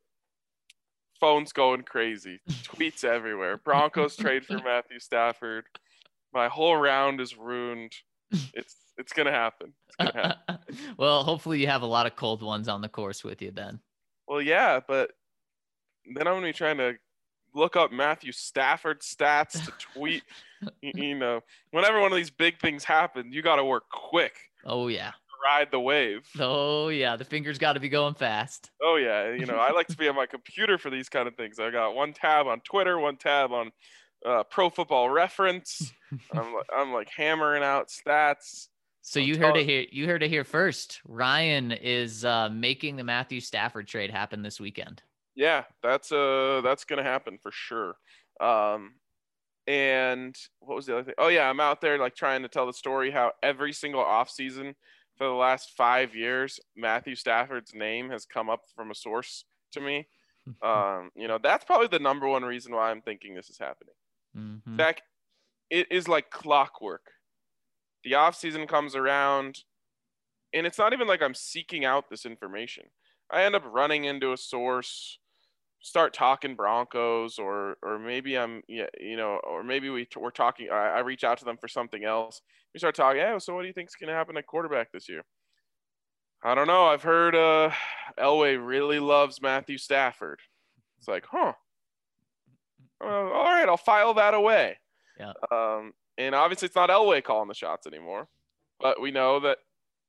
Phone's going crazy. Tweets everywhere. Broncos trade for Matthew Stafford. My whole round is ruined. It's it's gonna happen. It's gonna happen. Well, hopefully you have a lot of cold ones on the course with you then. Well, yeah, but then I'm going to be trying to look up Matthew Stafford stats to tweet. you, you know, whenever one of these big things happen, you got to work quick. Oh, yeah. Ride the wave. Oh, yeah. The fingers got to be going fast. Oh, yeah. You know, I like to be on my computer for these kind of things. I got one tab on Twitter, one tab on uh, Pro Football Reference. I'm, I'm like hammering out stats. So I'm you heard telling- it here. You heard it here first. Ryan is uh, making the Matthew Stafford trade happen this weekend. Yeah, that's uh that's gonna happen for sure. Um, and what was the other thing? Oh yeah, I'm out there like trying to tell the story how every single offseason for the last five years, Matthew Stafford's name has come up from a source to me. Um, you know, that's probably the number one reason why I'm thinking this is happening. Mm-hmm. Zach, it is like clockwork. The offseason comes around, and it's not even like I'm seeking out this information. I end up running into a source, start talking Broncos, or or maybe I'm yeah you know, or maybe we we're talking. I, I reach out to them for something else. We start talking. Hey, so what do you think's gonna happen at quarterback this year? I don't know. I've heard uh, Elway really loves Matthew Stafford. It's like, huh. Uh, all right, I'll file that away. Yeah. Um, and obviously it's not Elway calling the shots anymore, but we know that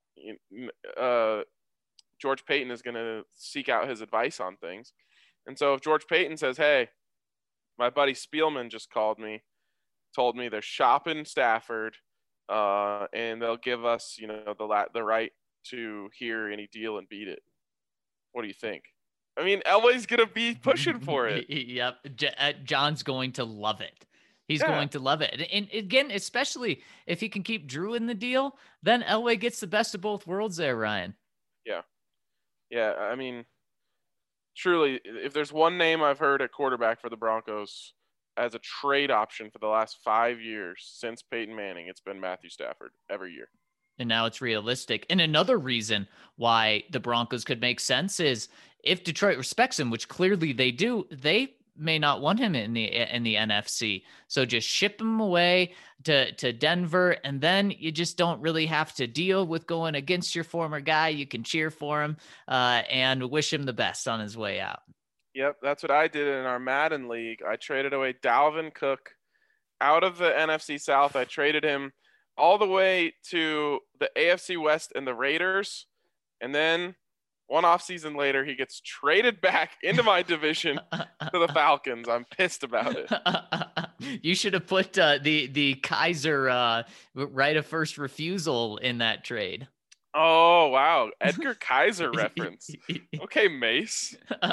uh, George Paton is going to seek out his advice on things. And so if George Paton says, hey, my buddy Spielman just called me, told me they're shopping Stafford, uh, and they'll give us, you know, the la- the right to hear any deal and beat it. What do you think? I mean, Elway's going to be pushing for it. Yep. J- uh, John's going to love it. He's Yeah. going to love it. And, and again, especially if he can keep Drew in the deal, then Elway gets the best of both worlds there, Ryan. Yeah. Yeah. I mean, truly, if there's one name I've heard at quarterback for the Broncos as a trade option for the last five years since Peyton Manning, it's been Matthew Stafford every year. And now it's realistic. And another reason why the Broncos could make sense is if Detroit respects him, which clearly they do, they may not want him in the in the N F C. So just ship him away to, to Denver, and then you just don't really have to deal with going against your former guy. You can cheer for him uh, and wish him the best on his way out. Yep, that's what I did in our Madden league. I traded away Dalvin Cook out of the N F C South. I traded him all the way to the A F C West and the Raiders. And then one offseason later, he gets traded back into my division to the Falcons. I'm pissed about it. You should have put uh, the, the Kaiser uh, right of first refusal in that trade. Oh, wow. Edgar Kaiser reference. Okay, Mace.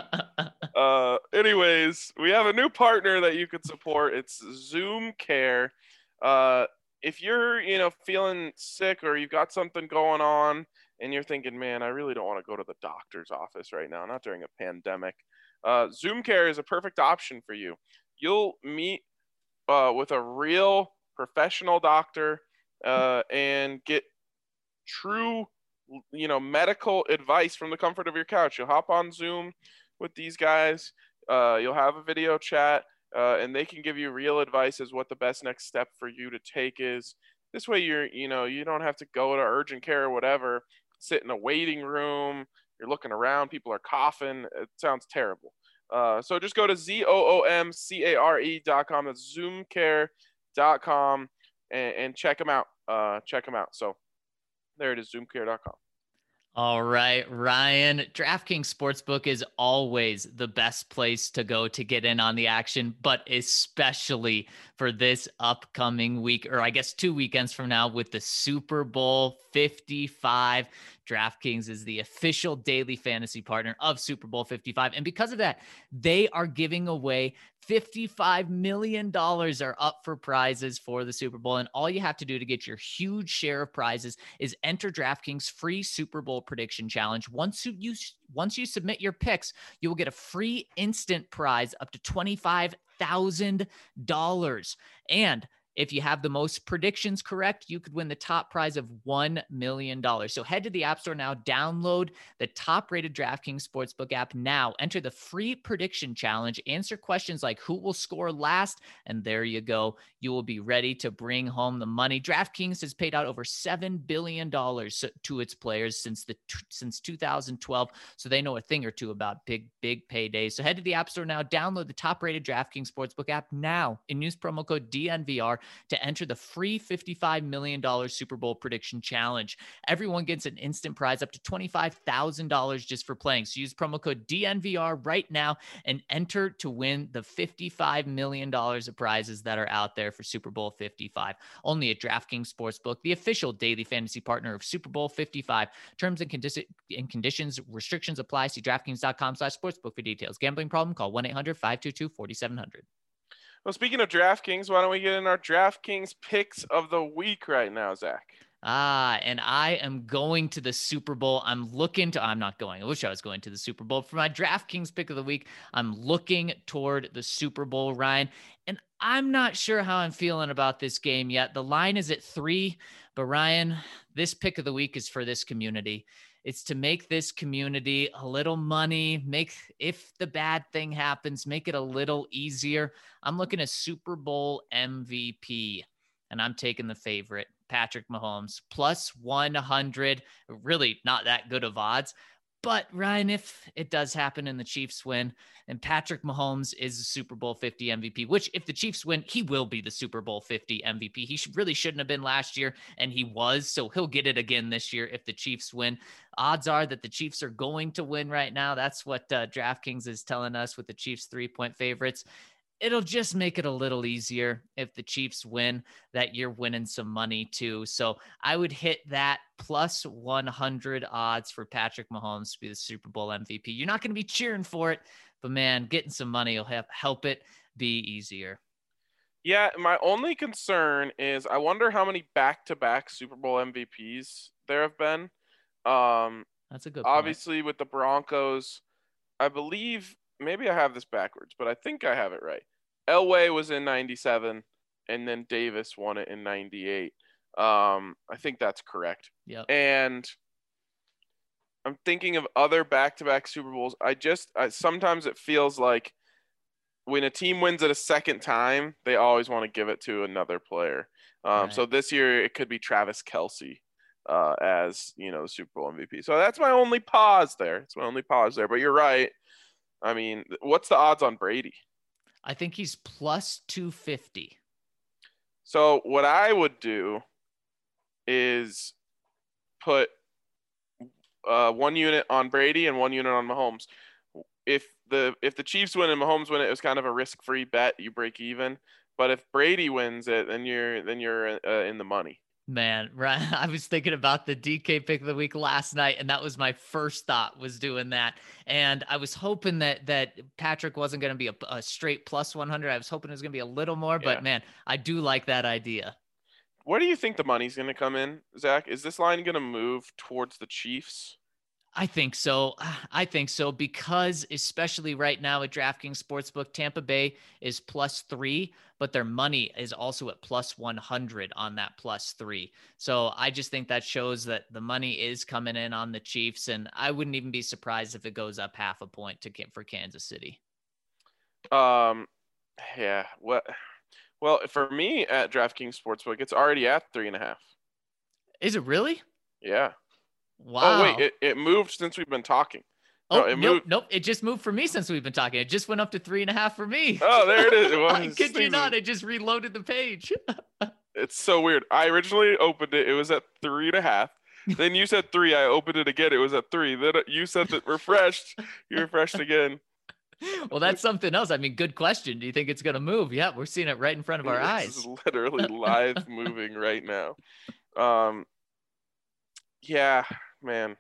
Uh, anyways, we have a new partner that you could support. It's Zoom Care. Uh, if you're, you know, feeling sick or you've got something going on and you're thinking, man, I really don't want to go to the doctor's office right now, not during a pandemic, uh, Zoom Care is a perfect option for you. You'll meet uh, with a real professional doctor uh, and get true, you know, medical advice from the comfort of your couch. You'll hop on Zoom with these guys. Uh, you'll have a video chat, uh, and they can give you real advice as what the best next step for you to take is. This way, you're, you know, you don't have to go to urgent care or whatever, sit in a waiting room. You're looking around. People are coughing. It sounds terrible. Uh, so just go to Z O O M C A R E dot com. That's zoom care dot com and, and check them out. Uh, check them out. So there it is, zoom care dot com. All right, Ryan, DraftKings Sportsbook is always the best place to go to get in on the action, but especially for this upcoming week, or I guess two weekends from now with the Super Bowl fifty-five. DraftKings is the official daily fantasy partner of Super Bowl fifty-five. And because of that, they are giving away fifty-five million dollars are up for prizes for the Super Bowl. And all you have to do to get your huge share of prizes is enter DraftKings free Super Bowl prediction challenge. Once you, you once you submit your picks, you will get a free instant prize up to twenty-five thousand dollars. And if you have the most predictions correct, you could win the top prize of one million dollars. So head to the App Store now, download the top-rated DraftKings Sportsbook app now, enter the free prediction challenge, answer questions like who will score last, and there you go. You will be ready to bring home the money. DraftKings has paid out over seven billion dollars to its players since the since two thousand twelve, so they know a thing or two about big, big paydays. So head to the App Store now, download the top-rated DraftKings Sportsbook app now, and use promo code D N V R to enter the free fifty-five million dollars Super Bowl prediction challenge. Everyone gets an instant prize up to twenty-five thousand dollars just for playing. So use promo code D N V R right now and enter to win the fifty-five million dollars of prizes that are out there for Super Bowl fifty-five. Only at DraftKings Sportsbook, the official daily fantasy partner of Super Bowl fifty-five. Terms and, condi- and conditions, restrictions apply. See DraftKings.com slash sportsbook for details. Gambling problem? Call one eight hundred five two two four seven zero zero. Well, speaking of DraftKings, why don't we get in our DraftKings picks of the week right now, Zach? Ah, and I am going to the Super Bowl. I'm looking to, I'm not going. I wish I was going to the Super Bowl. For my DraftKings pick of the week, I'm looking toward the Super Bowl, Ryan. And I'm not sure how I'm feeling about this game yet. The line is at three, but Ryan, this pick of the week is for this community. It's to make this community a little money, make, if the bad thing happens, make it a little easier. I'm looking at Super Bowl M V P, and I'm taking the favorite, Patrick Mahomes, plus one hundred. Really not that good of odds. But Ryan, if it does happen and the Chiefs win, and Patrick Mahomes is the Super Bowl fifty M V P, which if the Chiefs win, he will be the Super Bowl fifty M V P. He should, really shouldn't have been last year, and he was, so he'll get it again this year if the Chiefs win. Odds are that the Chiefs are going to win right now. That's what uh, DraftKings is telling us with the Chiefs three-point favorites. It'll just make it a little easier if the Chiefs win, that you're winning some money too. So I would hit that plus one hundred odds for Patrick Mahomes to be the Super Bowl M V P. You're not going to be cheering for it, but man, getting some money will have, help it be easier. Yeah, my only concern is I wonder how many back-to-back Super Bowl M V Ps there have been. Um, That's a good point. Obviously, with the Broncos, I believe – maybe I have this backwards, but I think I have it right. Elway was in ninety-seven, and then Davis won it in ninety-eight. Um, I think that's correct. Yep. And I'm thinking of other back-to-back Super Bowls. I just I, sometimes it feels like when a team wins it a second time, they always want to give it to another player. Um, Right. So this year it could be Travis Kelce uh, as you know the Super Bowl M V P. So that's my only pause there. It's my only pause there. But you're right. I mean, what's the odds on Brady? I think he's plus two fifty. So what I would do is put uh, one unit on Brady and one unit on Mahomes. If the if the Chiefs win and Mahomes win it, it was kind of a risk-free bet. You break even. But if Brady wins it, then you're then you're uh, in the money. Man, right. I was thinking about the D K pick of the week last night, and that was my first thought, was doing that. And I was hoping that that Patrick wasn't going to be a, a straight plus one hundred. I was hoping it was going to be a little more, but Yeah. man, I do like that idea. Where do you think the money's going to come in, Zach? Is this line going to move towards the Chiefs? I think so. I think so because especially right now at DraftKings Sportsbook, Tampa Bay is plus three, but their money is also at plus one hundred on that plus three. So I just think that shows that the money is coming in on the Chiefs, and I wouldn't even be surprised if it goes up half a point to for Kansas City. Um, yeah. What? Well, for me at DraftKings Sportsbook, it's already at three and a half. Is it really? Yeah. Wow. Oh wait, it, it moved since we've been talking. Oh, No, it nope, moved. nope. It just moved for me since we've been talking. It just went up to three and a half for me. Oh, there it is. It I was kid you sneezing. not. It just reloaded the page. It's so weird. I originally opened it. It was at three and a half. Then you said three. I opened it again. It was at three. Then you said that refreshed. You refreshed again. Well, that's something else. I mean, good question. Do you think it's going to move? Yeah, we're seeing it right in front of our This eyes. is literally live moving right now. Um. Yeah, man.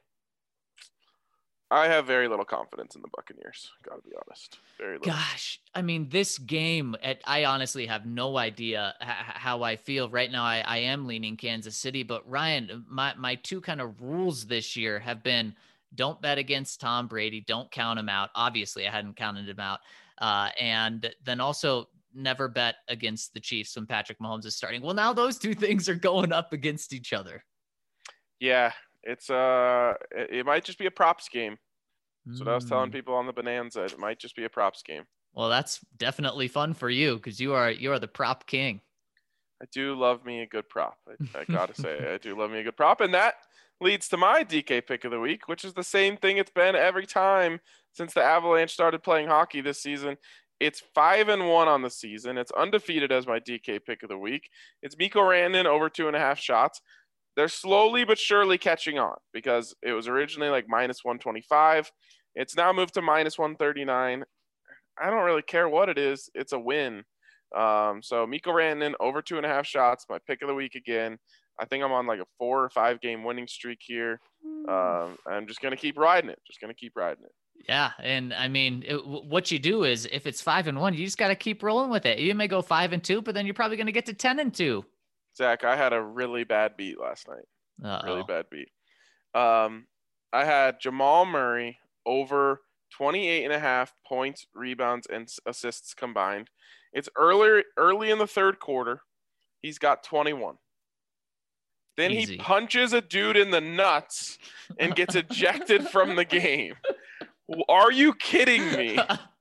I have very little confidence in the Buccaneers. Gotta be honest. Very little. Gosh, I mean, this game, at, I honestly have no idea h- how I feel right now. I, I am leaning Kansas City, but Ryan, my, my two kind of rules this year have been don't bet against Tom Brady. Don't count him out. Obviously, I hadn't counted him out. Uh, and then also never bet against the Chiefs when Patrick Mahomes is starting. Well, now those two things are going up against each other. Yeah, it's uh, it, it might just be a props game. That's what I was telling Mm. people on the Bonanza. It might just be a props game. Well, that's definitely fun for you because you are you are the prop king. I do love me a good prop. I, I gotta say, I do love me a good prop, and that leads to my D K pick of the week, which is the same thing it's been every time since the Avalanche started playing hockey this season. It's five and one on the season. It's undefeated as my D K pick of the week. It's Mikko Rantanen over two and a half shots. They're slowly but surely catching on because it was originally like minus one twenty-five. It's now moved to minus one thirty-nine. I don't really care what it is. It's a win. Um, so Mikko Rantanen over two and a half shots, my pick of the week again. I think I'm on like a four or five game winning streak here. Um, I'm just going to keep riding it. Just going to keep riding it. Yeah, and I mean, it, what you do is if it's five and one, you just got to keep rolling with it. You may go five and two, but then you're probably going to get to ten and two. Zach, I had a really bad beat last night. Uh-oh. Really bad beat. Um, I had Jamal Murray over twenty-eight and a half points, rebounds, and assists combined. It's earlier, early in the third quarter. He's got twenty-one. Then Easy. He punches a dude in the nuts and gets ejected from the game. Are you kidding me?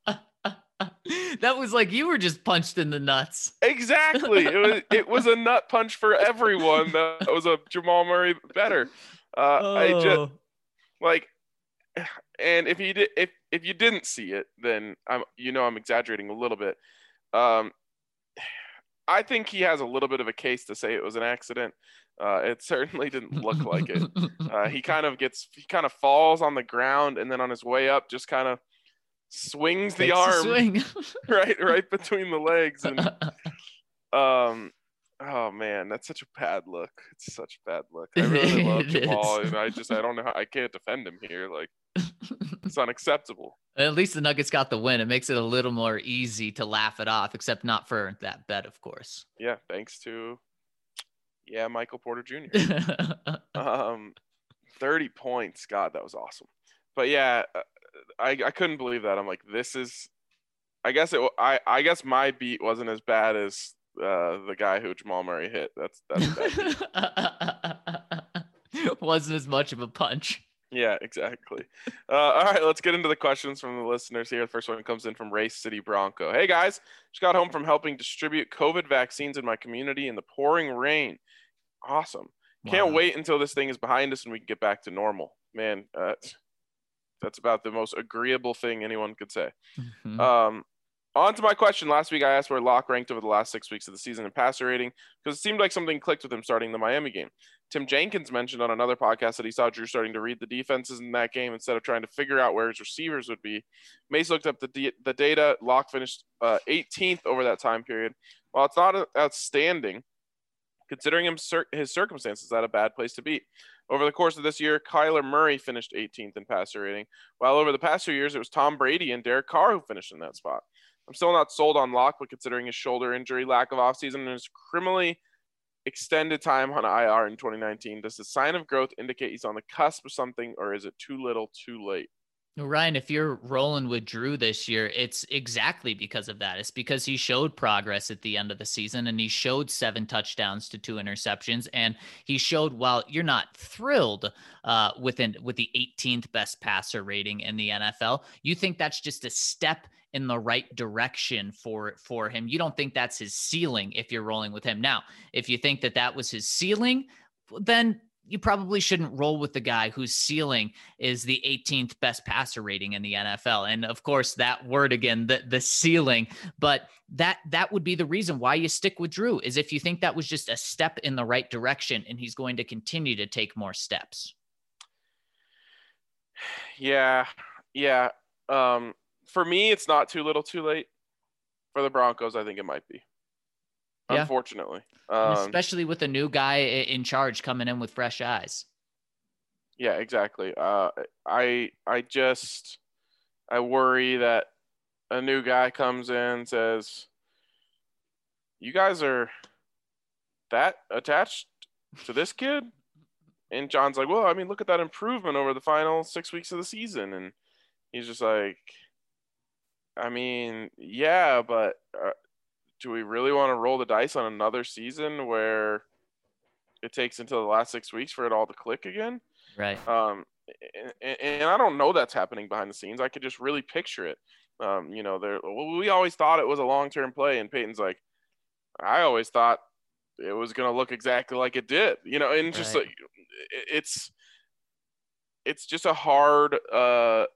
That was like you were just punched in the nuts. Exactly. It was it was a nut punch for everyone. That was a Jamal Murray better. Uh, oh. I just like, and if you did, if if you didn't see it, then I'm you know I'm exaggerating a little bit. Um, I think he has a little bit of a case to say it was an accident. Uh, it certainly didn't look like it. Uh, he kind of gets, he kind of falls on the ground, and then on his way up, just kind of swings the Takes a arm swing. right, right between the legs, and um, oh man, that's such a bad look. It's such a bad look. I really love It Jamal, is. and I just, I don't know how I can't defend him here. Like, it's unacceptable. At least the Nuggets got the win. It makes it a little more easy to laugh it off, except not for that bet, of course. Yeah, thanks to. Yeah, Michael Porter Junior um, thirty points. God, that was awesome. But yeah, I, I couldn't believe that. I'm like, this is. I guess it. I I guess my beat wasn't as bad as uh, the guy who Jamal Murray hit. That's that's a bad beat. Wasn't as much of a punch. Yeah, exactly. Uh, all right, let's get into the questions from the listeners here. The first one comes in from Race City Bronco. Hey guys, just got home from helping distribute COVID vaccines in my community in the pouring rain. Awesome. Can't Wow. wait until this thing is behind us and we can get back to normal. Man, uh, that's about the most agreeable thing anyone could say. Mhm. Um, on to my question. Last week, I asked where Locke ranked over the last six weeks of the season in passer rating because it seemed like something clicked with him starting the Miami game. Tim Jenkins mentioned on another podcast that he saw Drew starting to read the defenses in that game instead of trying to figure out where his receivers would be. Mace looked up the, d- the data. Locke finished uh, eighteenth over that time period. While it's not outstanding, considering him cir- his circumstances, that a bad place to be. Over the course of this year, Kyler Murray finished eighteenth in passer rating, while over the past few years, it was Tom Brady and Derek Carr who finished in that spot. I'm still not sold on Locke, but considering his shoulder injury, lack of offseason, and his criminally extended time on I R in twenty nineteen, does the sign of growth indicate he's on the cusp of something, or is it too little, too late? Ryan, if you're rolling with Drew this year, it's exactly because of that. It's because he showed progress at the end of the season and he showed seven touchdowns to two interceptions. And he showed, while you're not thrilled uh, within with the eighteenth best passer rating in the N F L, you think that's just a step in the right direction for, for him. You don't think that's his ceiling if you're rolling with him. Now, if you think that that was his ceiling, then you probably shouldn't roll with the guy whose ceiling is the eighteenth best passer rating in the N F L. And of course, that word again, the, the ceiling, but that, that would be the reason why you stick with Drew, is if you think that was just a step in the right direction and he's going to continue to take more steps. Yeah. Yeah. Um, for me, it's not too little, too late. For the Broncos, I think it might be. Yeah. Unfortunately. And Um, especially with a new guy i- in charge coming in with fresh eyes. yeah, exactly. Uh, I I just I worry that a new guy comes in and says, "You guys are that attached to this kid?" And John's like, "Well, I mean, look at that improvement over the final six weeks of the season." And he's just like, "I mean, yeah, but uh, do we really want to roll the dice on another season where it takes until the last six weeks for it all to click again?" Right. Um, and, and I don't know that's happening behind the scenes. I could just really picture it. Um, you know, there. Well, we always thought it was a long-term play, and Peyton's like, I always thought it was going to look exactly like it did. You know, and just Right. like it's it's just a hard uh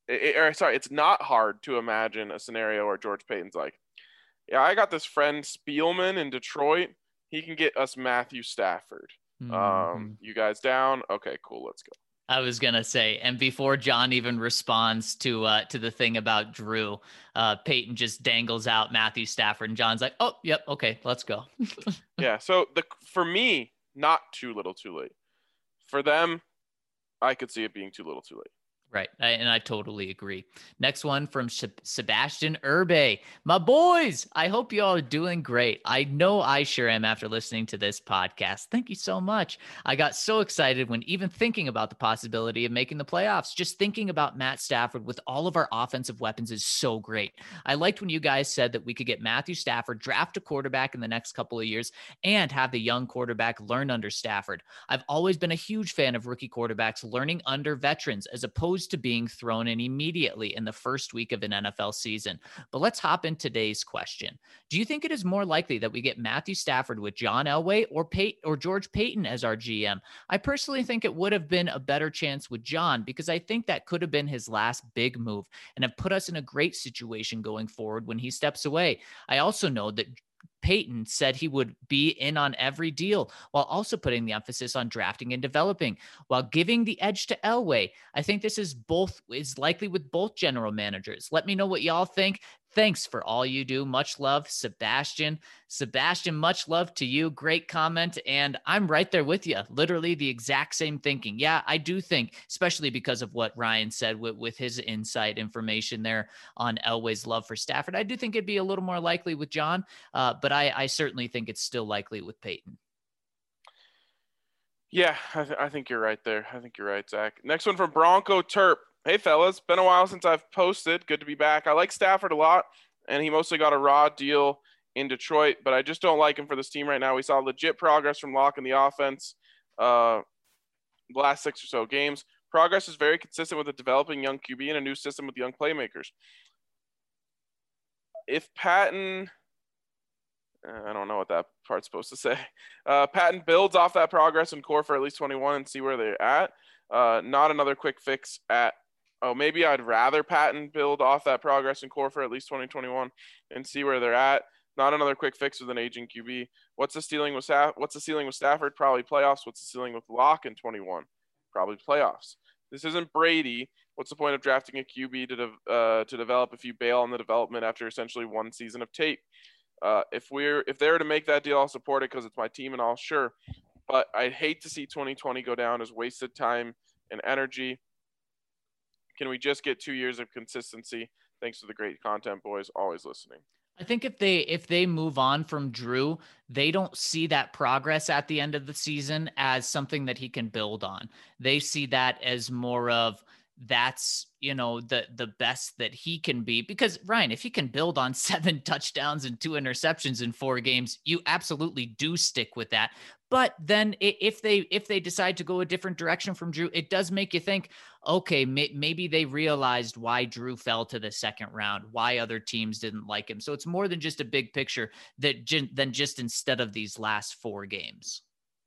it, or sorry, it's not hard to imagine a scenario where George Payton's like, yeah, I got this friend Spielman in Detroit. He can get us Matthew Stafford. Mm-hmm. Um, you guys down? Okay, cool. Let's go. I was gonna say, and before John even responds to uh, to the thing about Drew, uh, Peyton just dangles out Matthew Stafford, and John's like, "Oh, yep, okay, let's go." Yeah. So the for me, not too little, too late. For them, I could see it being too little, too late. Right. I, and I totally agree. Next one from Sebastian Urbe. My boys, I hope you all are doing great. I know I sure am after listening to this podcast. Thank you so much. I got so excited when even thinking about the possibility of making the playoffs. Just thinking about Matt Stafford with all of our offensive weapons is so great. I liked when you guys said that we could get Matthew Stafford, draft a quarterback in the next couple of years, and have the young quarterback learn under Stafford. I've always been a huge fan of rookie quarterbacks learning under veterans as opposed to being thrown in immediately in the first week of an N F L season. But let's hop in today's question. Do you think it is more likely that we get Matthew Stafford with John Elway or Pey- or George Payton as our G M? I personally think it would have been a better chance with John because I think that could have been his last big move and have put us in a great situation going forward when he steps away. I also know that Payton said he would be in on every deal while also putting the emphasis on drafting and developing while giving the edge to Elway. I think this is both is likely with both general managers. Let me know what y'all think. Thanks for all you do. Much love, Sebastian. Sebastian, much love to you. Great comment. And I'm right there with you. Literally the exact same thinking. Yeah, I do think, especially because of what Ryan said with, with his insight information there on Elway's love for Stafford. I do think it'd be a little more likely with John, uh, but I, I certainly think it's still likely with Payton. Yeah, I, th- I think you're right there. I think you're right, Zach. Next one from Bronco Terp. Hey, fellas. Been a while since I've posted. Good to be back. I like Stafford a lot, and he mostly got a raw deal in Detroit, but I just don't like him for this team right now. We saw legit progress from Locke in the offense uh, the last six or so games. Progress is very consistent with a developing young Q B and a new system with young playmakers. If Patton – I don't know what that part's supposed to say. Uh, Patton builds off that progress in core for at least twenty-one and see where they're at. Uh, not another quick fix at – oh, maybe I'd rather Patton build off that progress in core for at least twenty twenty-one and see where they're at. Not another quick fix with an aging Q B. What's the ceiling with Staff? What's the ceiling with Stafford? Probably playoffs. What's the ceiling with Locke in twenty-one? Probably playoffs. This isn't Brady. What's the point of drafting a Q B to de- uh, to develop if you bail on the development after essentially one season of tape? Uh, if we're if they're to make that deal, I'll support it because it's my team and all. Sure, but I'd hate to see twenty twenty go down as wasted time and energy. Can we just get two years of consistency? Thanks for the great content, boys. Always listening. I think if they if they move on from Drew, they don't see that progress at the end of the season as something that he can build on. They see that as more of that's, you know, the the best that he can be. Because Ryan, if he can build on seven touchdowns and two interceptions in four games, you absolutely do stick with that. But then if they if they decide to go a different direction from Drew, it does make you think, okay, may, maybe they realized why Drew fell to the second round, why other teams didn't like him. So it's more than just a big picture that than just instead of these last four games.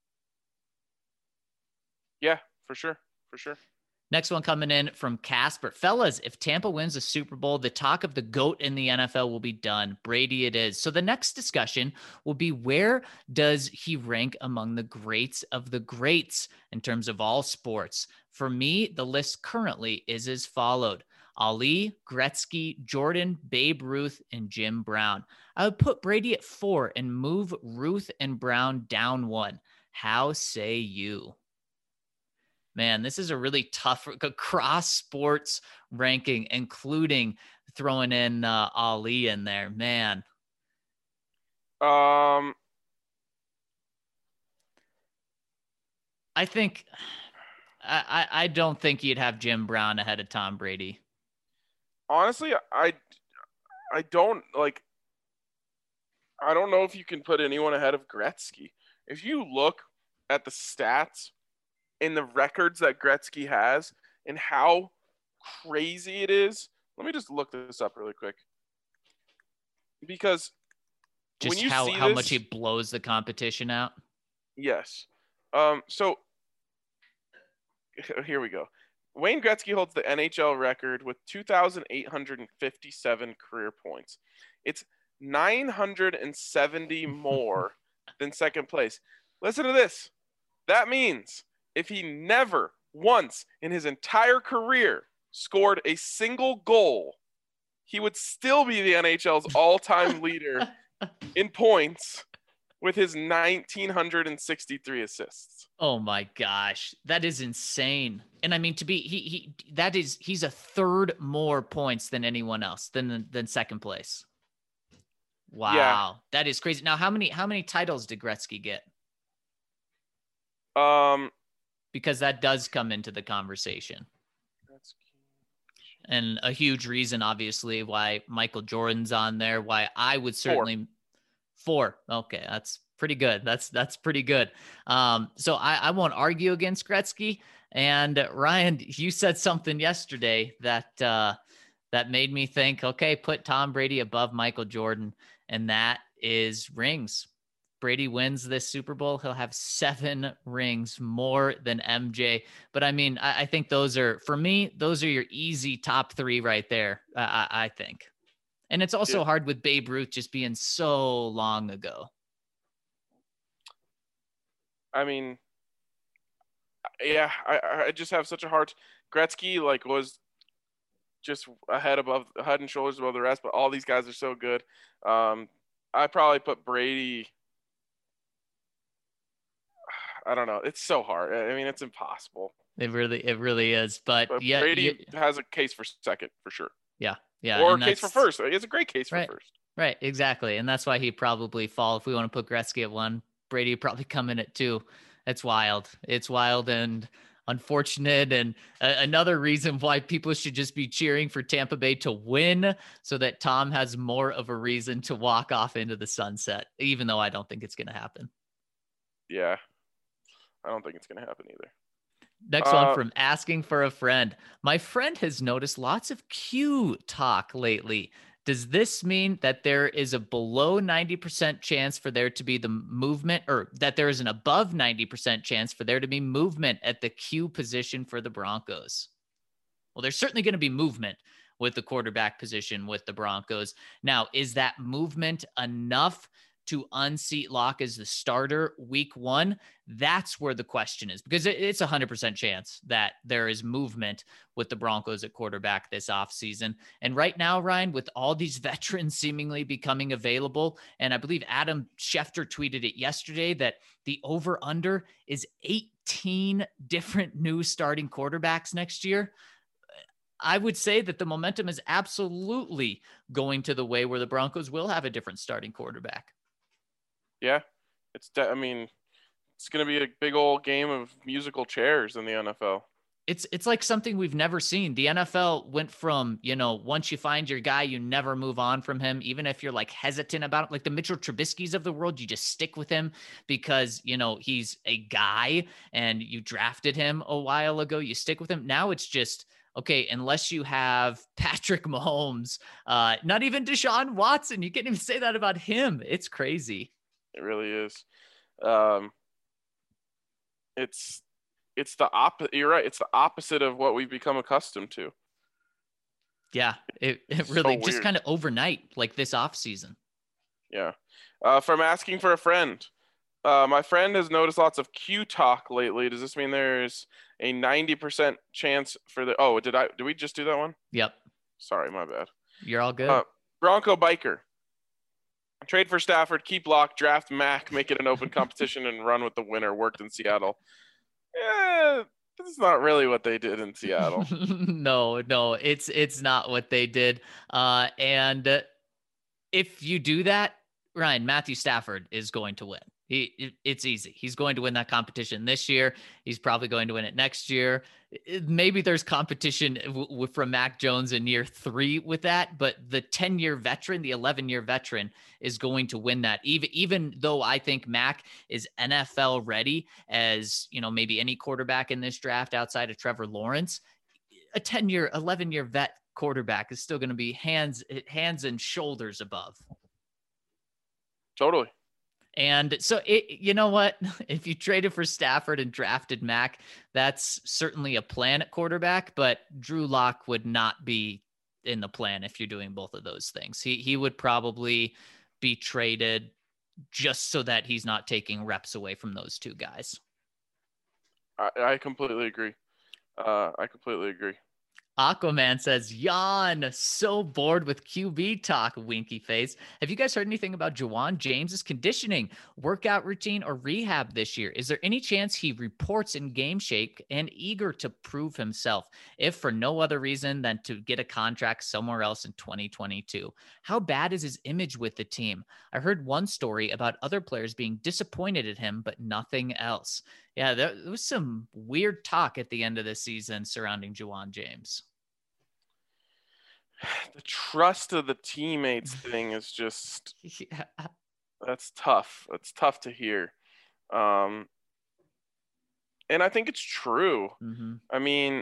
Yeah, for sure. For sure. Next one coming in from Casper. Fellas, if Tampa wins the Super Bowl, the talk of the GOAT in the N F L will be done. Brady it is. So the next discussion will be, where does he rank among the greats of the greats in terms of all sports? For me, the list currently is as followed: Ali, Gretzky, Jordan, Babe Ruth, and Jim Brown. I would put Brady at four and move Ruth and Brown down one. How say you? Man, this is a really tough cross sports ranking, including throwing in uh, Ali in there, man. Um, I think I, I don't think you'd have Jim Brown ahead of Tom Brady. Honestly, I I don't like. I don't know if you can put anyone ahead of Gretzky. If you look at the stats and the records that Gretzky has and how crazy it is. Let me just look this up really quick. Because just when you how, see how this, much he blows the competition out. Yes. Um, so here we go. Wayne Gretzky holds the N H L record with two thousand eight hundred fifty-seven career points. It's nine hundred seventy more than second place. Listen to this. That means if he never once in his entire career scored a single goal, he would still be the N H L's all-time leader in points with his one thousand nine hundred sixty-three assists. Oh my gosh, that is insane. And I mean, to be he he that is he's a third more points than anyone else than than second place. Wow, Yeah. that is crazy. Now, how many how many titles did Gretzky get? Um, Because that does come into the conversation. And a huge reason, obviously, why Michael Jordan's on there, why I would certainly four. four. Okay, that's pretty good. That's that's pretty good. Um, so I, I won't argue against Gretzky. And uh, Ryan, you said something yesterday that uh, that made me think, okay, put Tom Brady above Michael Jordan, and that is rings. Brady wins this Super Bowl, he'll have seven rings, more than M J. But I mean, I, I think those are, for me, those are your easy top three right there, uh, I, I think. And it's also Yeah. hard with Babe Ruth just being so long ago. I mean, yeah, I, I just have such a hard. Gretzky like was just ahead above, head and shoulders above the rest, but all these guys are so good. Um, I probably put Brady. I don't know. It's so hard. I mean, it's impossible. It really, it really is. But, But yeah, Brady you- has a case for second for sure, yeah, yeah. or a and case for that's- first. He has a great case for Right. first. Right, exactly. And that's why he probably fall. If we want to put Gretzky at one, Brady would probably come in at two. It's wild. It's wild and unfortunate. And uh, another reason why people should just be cheering for Tampa Bay to win so that Tom has more of a reason to walk off into the sunset, even though I don't think it's going to happen. Yeah, I don't think it's going to happen either. Next Uh, one from Asking for a Friend. My friend has noticed lots of Q talk lately. Does this mean that there is a below ninety percent chance for there to be the movement, or that there is an above ninety percent chance for there to be movement at the Q position for the Broncos? Well, there's certainly going to be movement with the quarterback position with the Broncos. Now, is that movement enough to unseat Locke as the starter week one? That's where the question is, because it's a hundred percent chance that there is movement with the Broncos at quarterback this offseason. And right now, Ryan, with all these veterans seemingly becoming available, and I believe Adam Schefter tweeted it yesterday that the over under is eighteen different new starting quarterbacks next year. I would say that the momentum is absolutely going to the way where the Broncos will have a different starting quarterback. Yeah, it's. De- I mean, it's going to be a big old game of musical chairs in the N F L. It's it's like something we've never seen. The N F L went from, you know, once you find your guy, you never move on from him, even if you're like hesitant about it. Like the Mitchell Trubisky's of the world, you just stick with him because, you know, he's a guy and you drafted him a while ago. You stick with him. Now it's just, okay, unless you have Patrick Mahomes, uh, not even Deshaun Watson, you can't even say that about him. It's crazy. It really is. Um, it's it's the opposite. You're right. It's the opposite of what we've become accustomed to. Yeah, it, it It's really so just weird. kind of overnight, like this offseason. Yeah. Uh, from Asking for a Friend. Uh, my friend has noticed lots of Q talk lately. Does this mean there's a ninety percent chance for the? Oh, did I? Did we just do that one? Yep, Sorry, my bad. you're all good. Uh, Bronco Biker. Trade for Stafford, keep Locke, draft Mac, make it an open competition, and run with the winner. Worked in Seattle. Yeah, this is not really what they did in Seattle. no, no, it's it's not what they did. Uh, and uh, if you do that, Ryan, Matthew Stafford is going to win. He, it- it's easy. He's going to win that competition this year. He's probably going to win it next year. It- Maybe there's competition w- w- from Mac Jones in year three with that, but the ten-year veteran, the eleven-year veteran is going to win that. Even, even though I think Mac is N F L ready as, you know, maybe any quarterback in this draft outside of Trevor Lawrence, a ten-year, eleven-year vet quarterback is still going to be hands, hands and shoulders above. Totally. And so, it, you know what? If you traded for Stafford and drafted Mac, that's certainly a plan at quarterback, but Drew Lock would not be in the plan if you're doing both of those things. He, he would probably be traded just so that he's not taking reps away from those two guys. I, I completely agree. Uh, I completely agree. Aquaman says, yawn, so bored with Q B talk, winky face. Have you guys heard anything about Jawan James's conditioning, workout routine, or rehab this year? Is there any chance he reports in game shape and eager to prove himself, if for no other reason than to get a contract somewhere else in twenty twenty-two? How bad is his image with the team? I heard one story about other players being disappointed at him, but nothing else. Yeah, there, there was some weird talk at the end of the season surrounding Jawan James. The trust of the teammates thing is just yeah. that's tough. That's tough to hear. Um, and I think it's true. Mm-hmm. I mean,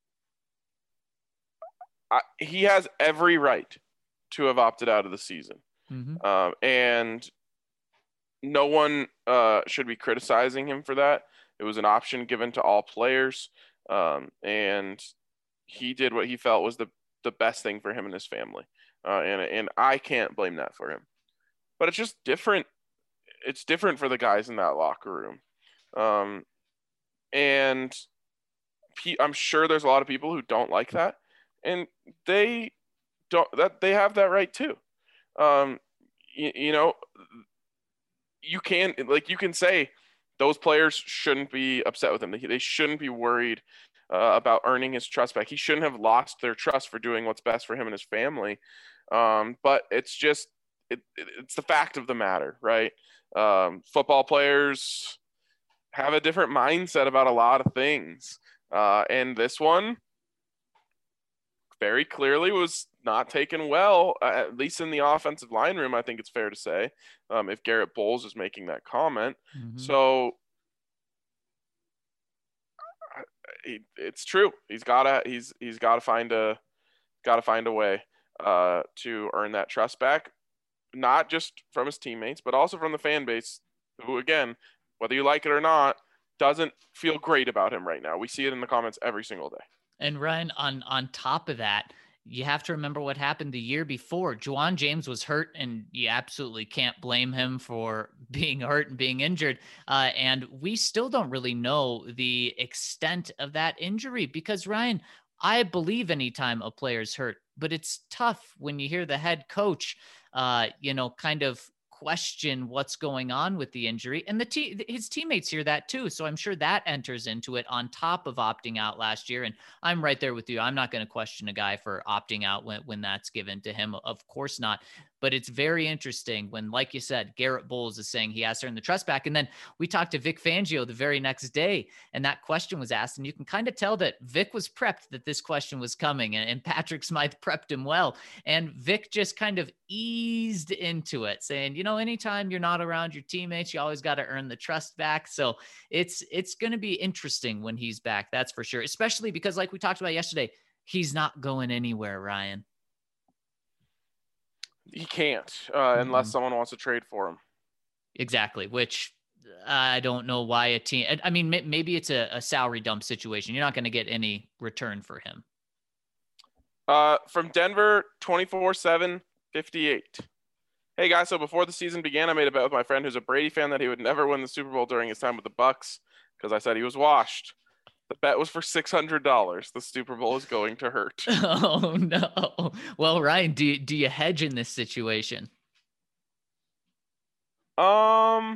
I, he has every right to have opted out of the season. Mm-hmm. Um, and no one uh, should be criticizing him for that. It was an option given to all players. Um, and he did what he felt was the the best thing for him and his family. Uh, and, and I can't blame that for him, but it's just different. It's different for the guys in that locker room. Um, and I'm sure there's a lot of people who don't like that, and they don't, that they have that right too. Um, you, you know, you can, like, you can say those players shouldn't be upset with him. They, they shouldn't be worried Uh, about earning his trust back. He shouldn't have lost their trust for doing what's best for him and his family. Um, but it's just, it, it, it's the fact of the matter, right? Um, football players have a different mindset about a lot of things. Uh, and this one very clearly was not taken well, uh, at least in the offensive line room, I think it's fair to say, um, if Garrett Bowles is making that comment. Mm-hmm. So, He, it's true. He's gotta he's he's gotta find a gotta find a way uh, to earn that trust back, not just from his teammates, but also from the fan base, who, again, whether you like it or not, doesn't feel great about him right now. We see it in the comments every single day. And Ryan, on on top of that, you have to remember what happened the year before. Jawan James was hurt, and you absolutely can't blame him for being hurt and being injured. Uh, and we still don't really know the extent of that injury because, Ryan, I believe anytime a player's hurt, but it's tough when you hear the head coach, uh, you know, kind of question what's going on with the injury, and the te- his teammates hear that too. So I'm sure that enters into it on top of opting out last year. And I'm right there with you. I'm not going to question a guy for opting out when, when that's given to him. Of course not. But it's very interesting when, like you said, Garrett Bowles is saying he has to earn the trust back. And then we talked to Vic Fangio the very next day, and that question was asked. And you can kind of tell that Vic was prepped that this question was coming, and, and Patrick Smythe prepped him well. And Vic just kind of eased into it, saying, you know, anytime you're not around your teammates, you always got to earn the trust back. So it's it's going to be interesting when he's back. That's for sure, especially because, like we talked about yesterday, he's not going anywhere, Ryan. He can't uh, mm-hmm. unless someone wants to trade for him. Exactly, which I don't know why a team – I mean, maybe it's a, a salary dump situation. You're not going to get any return for him. Uh, from Denver, twenty-four seven fifty-eight. Hey, guys, so before the season began, I made a bet with my friend who's a Brady fan that he would never win the Super Bowl during his time with the Bucs because I said he was washed. The bet was for six hundred dollars. The Super Bowl is going to hurt. Oh, no. Well, Ryan, do you, do you hedge in this situation? Um.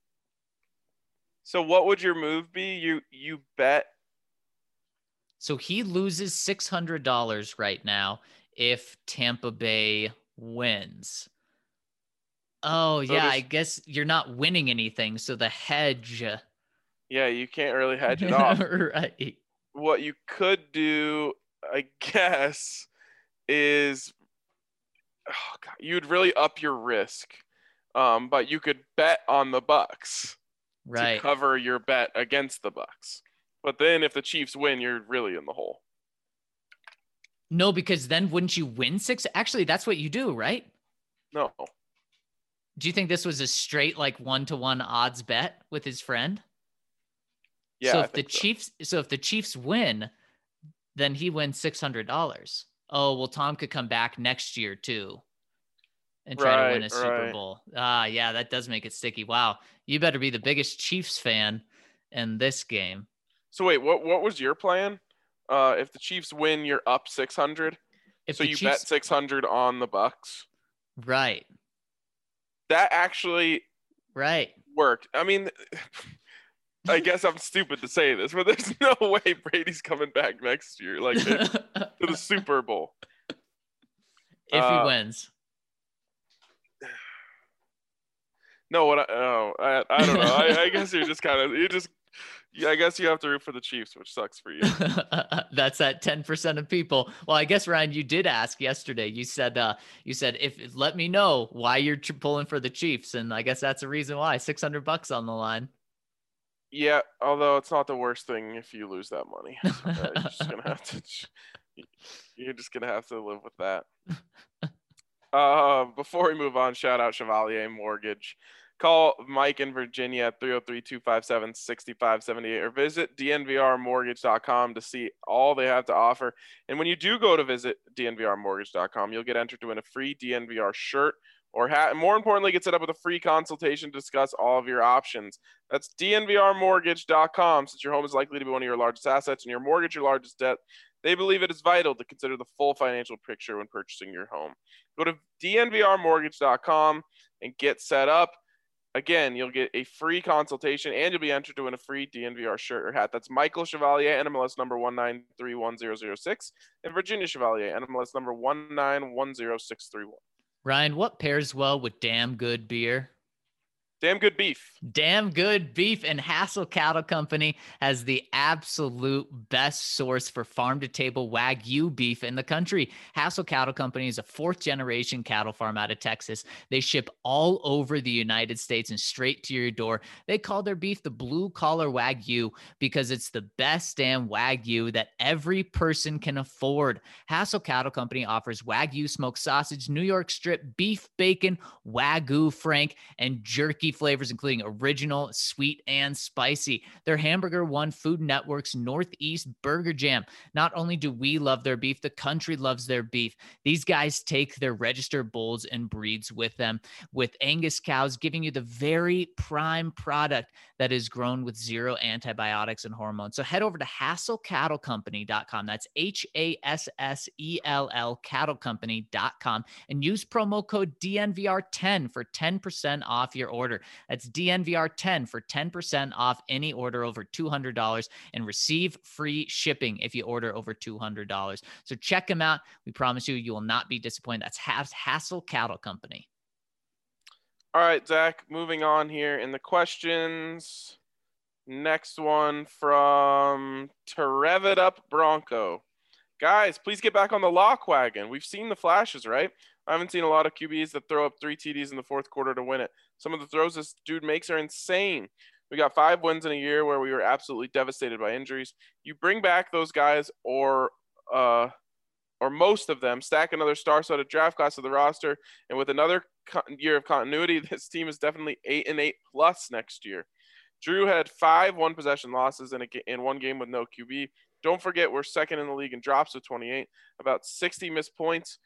So what would your move be? You you bet. So he loses six hundred dollars right now if Tampa Bay wins. Oh, so yeah, I guess you're not winning anything. So the hedge... Yeah, you can't really hedge it off. Right. What you could do, I guess, is oh God, you'd really up your risk. Um, but you could bet on the Bucs right. to cover your bet against the Bucs. But then if the Chiefs win, you're really in the hole. No, because then wouldn't you win six? Actually, that's what you do, right? No. Do you think this was a straight like one to one odds bet with his friend? Yeah, So I if the think so. Chiefs, so if the Chiefs win, then he wins six hundred dollars. Oh well, Tom could come back next year too and try to win Right, a Super right. Bowl. Ah, yeah, that does make it sticky. Wow, you better be the biggest Chiefs fan in this game. So wait, what what was your plan? Uh, if the Chiefs win, you're up six hundred. If So the you bet Chiefs, six hundred on the Bucks. right, That actually right. worked. I mean, I guess I'm stupid to say this, but there's no way Brady's coming back next year, like to the Super Bowl. If he Uh, wins. No, what I, oh, I, I don't know. I, I guess you're just kind of, you just, yeah, I guess you have to root for the Chiefs, which sucks for you. That's at ten percent of people. Well, I guess Ryan, you did ask yesterday. You said, uh, you said, if let me know why you're tr- pulling for the Chiefs. And I guess that's a reason why six hundred bucks on the line. Yeah, although it's not the worst thing if you lose that money. So, uh, you're just gonna have to, you're just gonna have to live with that. Uh, before we move on, shout out Chevalier Mortgage. Call Mike in Virginia at three oh three, two five seven, six five seven eight or visit d n v r mortgage dot com to see all they have to offer. And when you do go to visit d n v r mortgage dot com, you'll get entered to win a free D N V R shirt or hat. And more importantly, get set up with a free consultation to discuss all of your options. That's d n v r mortgage dot com. Since your home is likely to be one of your largest assets and your mortgage your largest debt, they believe it is vital to consider the full financial picture when purchasing your home. Go to d n v r mortgage dot com and get set up. Again, you'll get a free consultation and you'll be entered to win a free D N V R shirt or hat. That's Michael Chevalier, N M L S number one nine three one zero zero six, and Virginia Chevalier, N M L S number one nine one zero six three one. Ryan, what pairs well with damn good beer? Damn good beef. Damn good beef. And Hassel Cattle Company has the absolute best source for farm to table Wagyu beef in the country. Hassel Cattle Company is a fourth generation cattle farm out of Texas. They ship all over the United States and straight to your door. They call their beef the blue collar Wagyu because it's the best damn Wagyu that every person can afford. Hassel Cattle Company offers Wagyu smoked sausage, New York strip, beef bacon, Wagyu Frank, and jerky flavors, including original, sweet, and spicy. Their hamburger won Food Network's Northeast Burger Jam. Not only do we love their beef, the country loves their beef. These guys take their registered bulls and breeds with them, with Angus cows, giving you the very prime product that is grown with zero antibiotics and hormones. So head over to hassel cattle company dot com. That's H A S S E L L cattle company dot com and use promo code D N V R ten for ten percent off your order. That's D N V R ten for ten percent off any order over two hundred dollars and receive free shipping if you order over two hundred dollars. So check them out. We promise you, you will not be disappointed. That's Hassel Cattle Company. All right, Zach, moving on here in the questions. Next one from To Rev It Up Bronco. Guys, please get back on the lock wagon. We've seen the flashes, right? I haven't seen a lot of Q Bs that throw up three T Ds in the fourth quarter to win it. Some of the throws this dude makes are insane. We got five wins in a year where we were absolutely devastated by injuries. You bring back those guys or uh, or most of them, stack another star-studded draft class to the roster, and with another co- year of continuity, this team is definitely eight and eight plus next year. Drew had five one-possession losses in, a, in one game with no Q B. Don't forget, we're second in the league in drops with twenty-eight, about sixty missed points,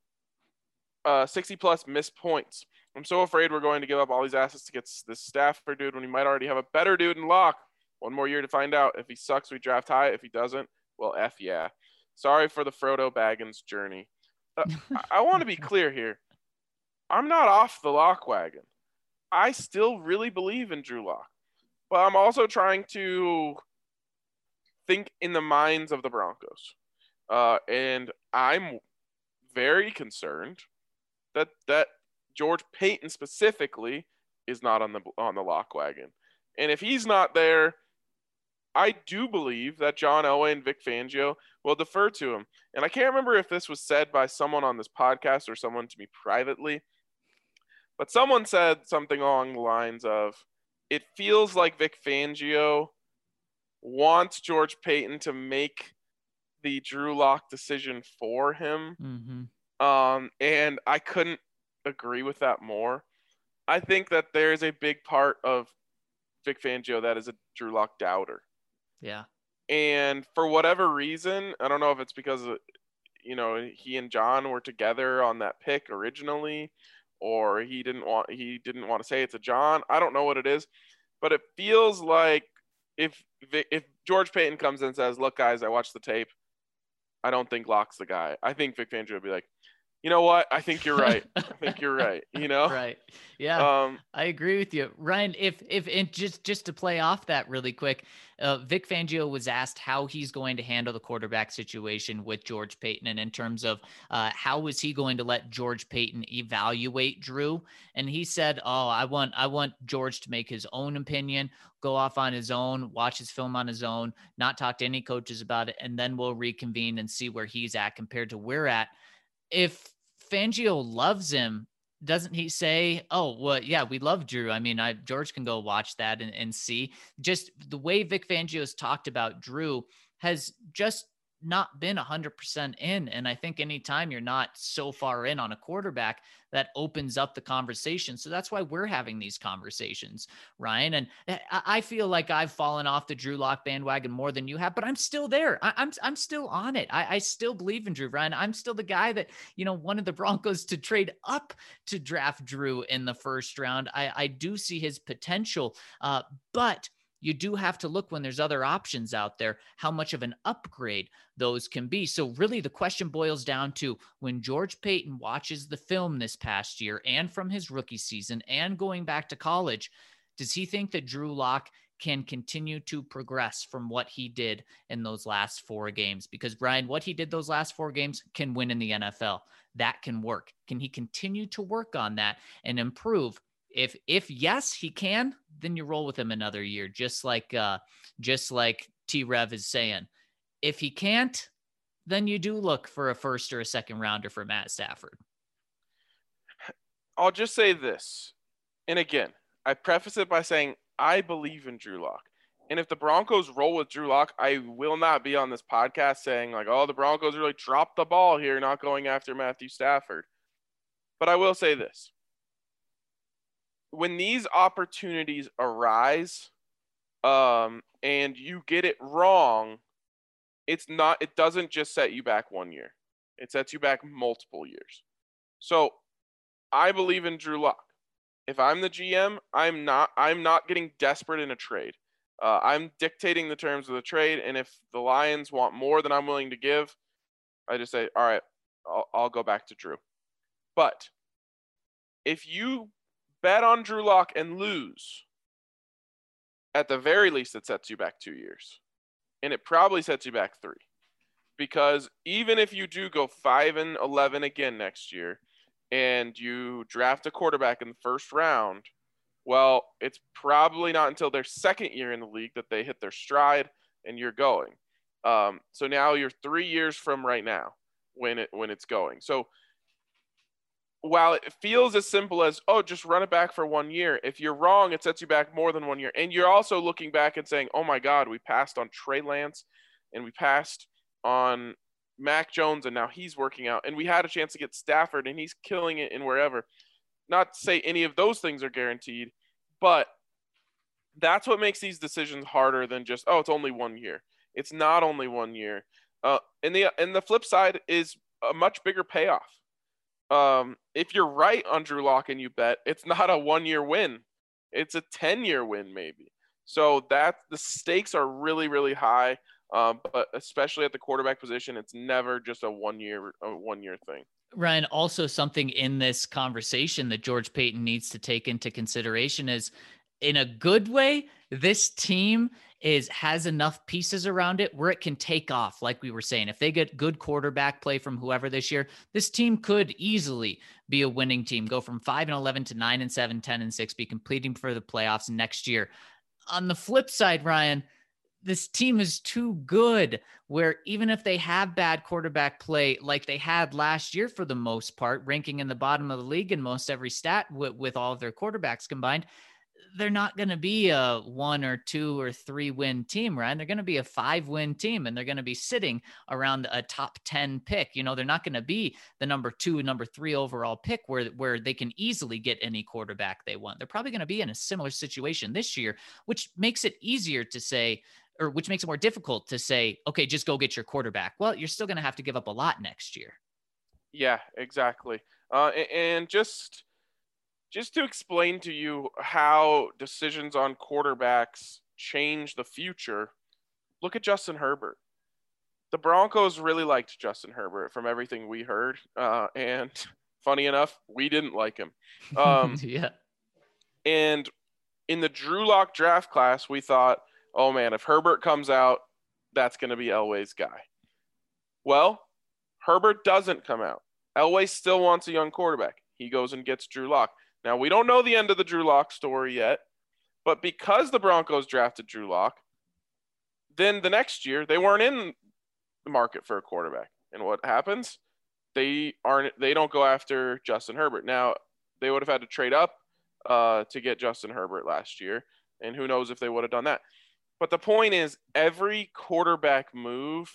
uh, sixty plus missed points. I'm so afraid we're going to give up all these assets to get this Stafford dude when we might already have a better dude in lock. One more year to find out. If he sucks, we draft high. If he doesn't, well, F yeah. Sorry for the Frodo Baggins journey. Uh, I, I want to be clear here. I'm not off the lock wagon. I still really believe in Drew Lock. But I'm also trying to think in the minds of the Broncos. Uh, and I'm very concerned that that George Paton specifically is not on the on the lock wagon. And if he's not there, I do believe that John Elway and Vic Fangio will defer to him. And I can't remember if this was said by someone on this podcast or someone to me privately, but someone said something along the lines of, it feels like Vic Fangio wants George Paton to make the Drew Lock decision for him. Mm-hmm. Um, and I couldn't agree with that more. I think that there is a big part of Vic Fangio that is a Drew Lock doubter. Yeah. And for whatever reason, I don't know if it's because, of, you know, he and John were together on that pick originally, or he didn't want he didn't want to say it to John. I don't know what it is, but it feels like if if George Paton comes in and says, "Look, guys, I watched the tape. I don't think Lock's the guy." I think Vic Fangio would be like, "You know what? I think you're right. I think you're right." You know? Right. Yeah. Um, I agree with you, Ryan. If if and just just to play off that really quick, uh, Vic Fangio was asked how he's going to handle the quarterback situation with George Paton, and in terms of uh, how is he going to let George Paton evaluate Drew, and he said, "Oh, I want I want George to make his own opinion, go off on his own, watch his film on his own, not talk to any coaches about it, and then we'll reconvene and see where he's at compared to where we're at." If Fangio loves him, doesn't he say, "Oh, well, yeah, we love Drew. I mean, I George can go watch that and, and see." Just the way Vic Fangio's talked about Drew has just not been one hundred percent in. And I think anytime you're not so far in on a quarterback, that opens up the conversation. So that's why we're having these conversations, Ryan. And I, I feel like I've fallen off the Drew Lock bandwagon more than you have, but I'm still there. I, I'm I'm still on it. I, I still believe in Drew, Ryan. I'm still the guy that, you know, wanted the Broncos to trade up to draft Drew in the first round. I, I do see his potential, uh, but you do have to look when there's other options out there, how much of an upgrade those can be. So really the question boils down to, when George Paton watches the film this past year and from his rookie season and going back to college, does he think that Drew Lock can continue to progress from what he did in those last four games? Because Brian, what he did those last four games can win in the N F L. That can work. Can he continue to work on that and improve? If if yes, he can, then you roll with him another year, just like uh, just like T-Rev is saying. If he can't, then you do look for a first or a second rounder for Matt Stafford. I'll just say this, and again, I preface it by saying I believe in Drew Lock. And if the Broncos roll with Drew Lock, I will not be on this podcast saying like, "Oh, the Broncos really dropped the ball here, not going after Matthew Stafford." But I will say this. When these opportunities arise, um, and you get it wrong, it's not, it doesn't just set you back one year. It sets you back multiple years. So I believe in Drew Lock. If I'm the G M, I'm not, I'm not getting desperate in a trade. Uh, I'm dictating the terms of the trade. And if the Lions want more than I'm willing to give, I just say, all right, I'll, I'll go back to Drew. But if you bet on Drew Lock and lose, at the very least, it sets you back two years. And it probably sets you back three. Because even if you do go five and eleven again next year, and you draft a quarterback in the first round, well, it's probably not until their second year in the league that they hit their stride and you're going. Um, so now you're three years from right now when it when it's going. So while it feels as simple as, oh, just run it back for one year, if you're wrong, it sets you back more than one year. And you're also looking back and saying, oh, my God, we passed on Trey Lance and we passed on Mac Jones, and now he's working out. And we had a chance to get Stafford, and he's killing it in wherever. Not to say any of those things are guaranteed, but that's what makes these decisions harder than just, oh, it's only one year. It's not only one year. Uh, and the and the flip side is a much bigger payoff. Um, if you're right on Drew Lock and you bet, it's not a one-year win. It's a ten-year win maybe. So that the stakes are really, really high, um, but especially at the quarterback position, it's never just a one-year a one-year thing. Ryan, also something in this conversation that George Paton needs to take into consideration is, in a good way, this team is has enough pieces around it where it can take off. Like we were saying, if they get good quarterback play from whoever this year, this team could easily be a winning team, go from five and eleven to nine and seven, ten and six, be competing for the playoffs next year. On the flip side, Ryan, this team is too good where even if they have bad quarterback play, like they had last year for the most part, ranking in the bottom of the league in most every stat with, with all of their quarterbacks combined, they're not going to be a one or two or three win team, right? They're going to be a five win team, and they're going to be sitting around a top ten pick. You know, they're not going to be the number two, number three overall pick where, where they can easily get any quarterback they want. They're probably going to be in a similar situation this year, which makes it easier to say, or which makes it more difficult to say, okay, just go get your quarterback. Well, you're still going to have to give up a lot next year. Yeah, exactly. Uh, a- and just just to explain to you how decisions on quarterbacks change the future, look at Justin Herbert. The Broncos really liked Justin Herbert from everything we heard. Uh, and funny enough, we didn't like him. Um, yeah. and in the Drew Lock draft class, we thought, oh man, if Herbert comes out, that's going to be Elway's guy. Well, Herbert doesn't come out. Elway still wants a young quarterback. He goes and gets Drew Lock. Now, we don't know the end of the Drew Lock story yet, but because the Broncos drafted Drew Lock, then the next year they weren't in the market for a quarterback. And what happens? They aren't. They don't go after Justin Herbert. Now, they would have had to trade up uh, to get Justin Herbert last year, and who knows if they would have done that. But the point is, every quarterback move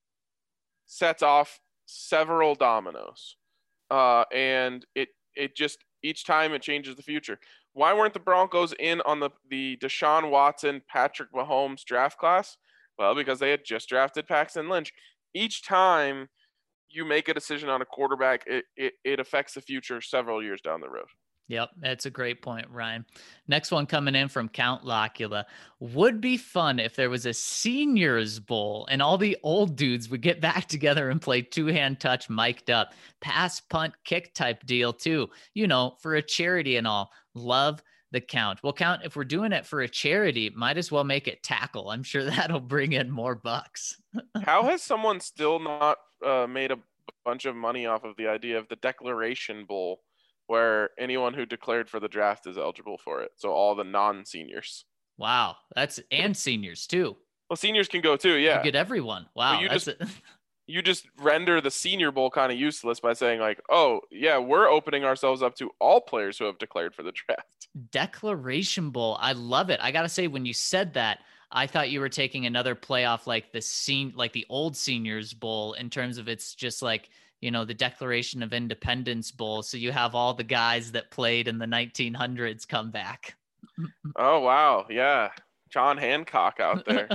sets off several dominoes, uh, and it it just each time it changes the future. Why weren't the Broncos in on the the Deshaun Watson, Patrick Mahomes draft class? Well, because they had just drafted Paxton Lynch. Each time you make a decision on a quarterback, it it, it affects the future several years down the road. Yep, that's a great point, Ryan. Next one coming in from Count Locula. Would be fun if there was a seniors bowl and all the old dudes would get back together and play two-hand touch mic'd up. Pass, punt, kick type deal too. You know, for a charity and all. Love the Count. Well, Count, if we're doing it for a charity, might as well make it tackle. I'm sure that'll bring in more bucks. How has someone still not uh, made a bunch of money off of the idea of the Declaration Bowl, where anyone who declared for the draft is eligible for it? So all the non-seniors. Wow. That's, and seniors too. Well, seniors can go too. Yeah. You get everyone. Wow. you That's just, a- you just render the Senior Bowl kind of useless by saying like, oh yeah, we're opening ourselves up to all players who have declared for the draft. Declaration Bowl. I love it. I got to say, when you said that, I thought you were taking another playoff like the scene, like the old Seniors Bowl, in terms of it's just like, you know, the Declaration of Independence Bowl. So you have all the guys that played in the nineteen hundreds come back. Oh, wow. Yeah. John Hancock out there.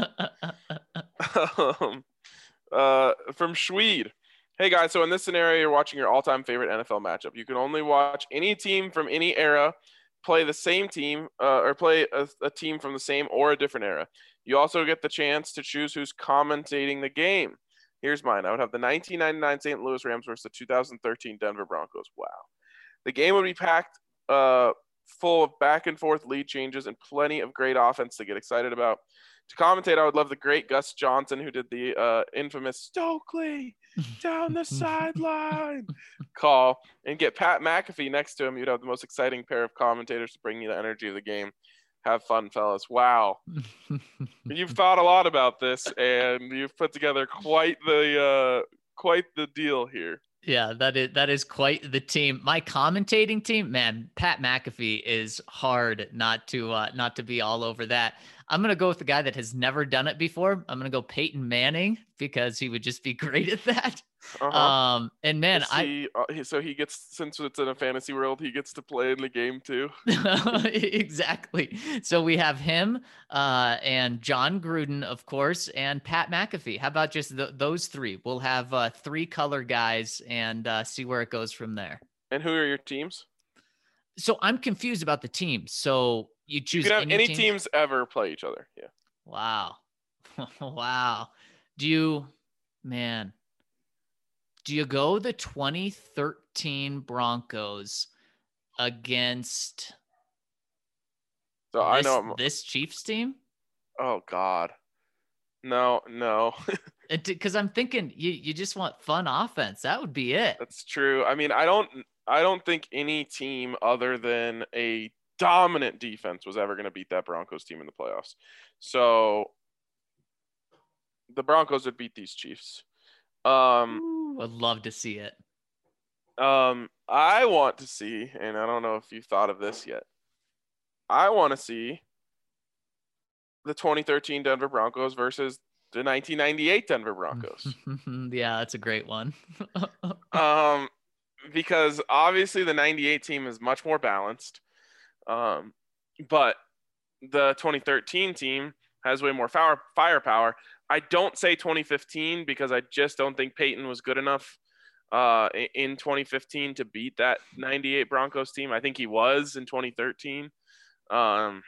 um, uh, from Schweed. Hey, guys. So in this scenario, you're watching your all-time favorite N F L matchup. You can only watch any team from any era play the same team uh, or play a, a team from the same or a different era. You also get the chance to choose who's commentating the game. Here's mine. I would have the nineteen ninety-nine Saint Louis Rams versus the two thousand thirteen Denver Broncos. Wow. The game would be packed uh, full of back and forth lead changes and plenty of great offense to get excited about. To commentate, I would love the great Gus Johnson, who did the uh, infamous Stokely down the sideline call, and get Pat McAfee next to him. You'd have the most exciting pair of commentators to bring you the energy of the game. Have fun, fellas. Wow. You've thought a lot about this, and you've put together quite the uh, quite the deal here. Yeah, that is that is quite the team. My commentating team, man, Pat McAfee is hard not to uh, not to be all over that. I'm gonna go with the guy that has never done it before. I'm gonna go Peyton Manning because he would just be great at that. Uh-huh. Um, and man, he, uh, he, so he gets, since it's in a fantasy world, he gets to play in the game too. I exactly. So we have him uh, and John Gruden, of course, and Pat McAfee. How about just th- those three? We'll have uh, three color guys and uh, see where it goes from there. And who are your teams? So I'm confused about the teams. So you choose you can have any, any teams? teams ever play each other. Yeah. Wow. Wow. Do you, man, do you go the twenty thirteen Broncos against So this, I know I'm, this Chiefs team? Oh God. No, no. Because I'm thinking you, you just want fun offense. That would be it. That's true. I mean, I don't I don't think any team other than a dominant defense was ever going to beat that Broncos team in the playoffs. So the Broncos would beat these Chiefs. Um, Ooh, I'd love to see it. Um, I want to see, and I don't know if you've thought of this yet, I want to see the twenty thirteen Denver Broncos versus the nineteen ninety-eight Denver Broncos. Yeah, that's a great one. um, because obviously the ninety-eight team is much more balanced. Um, but the twenty thirteen team has way more fire, firepower. I don't say twenty fifteen because I just don't think Peyton was good enough uh, in twenty fifteen to beat that ninety-eight Broncos team. I think he was in twenty thirteen. Um,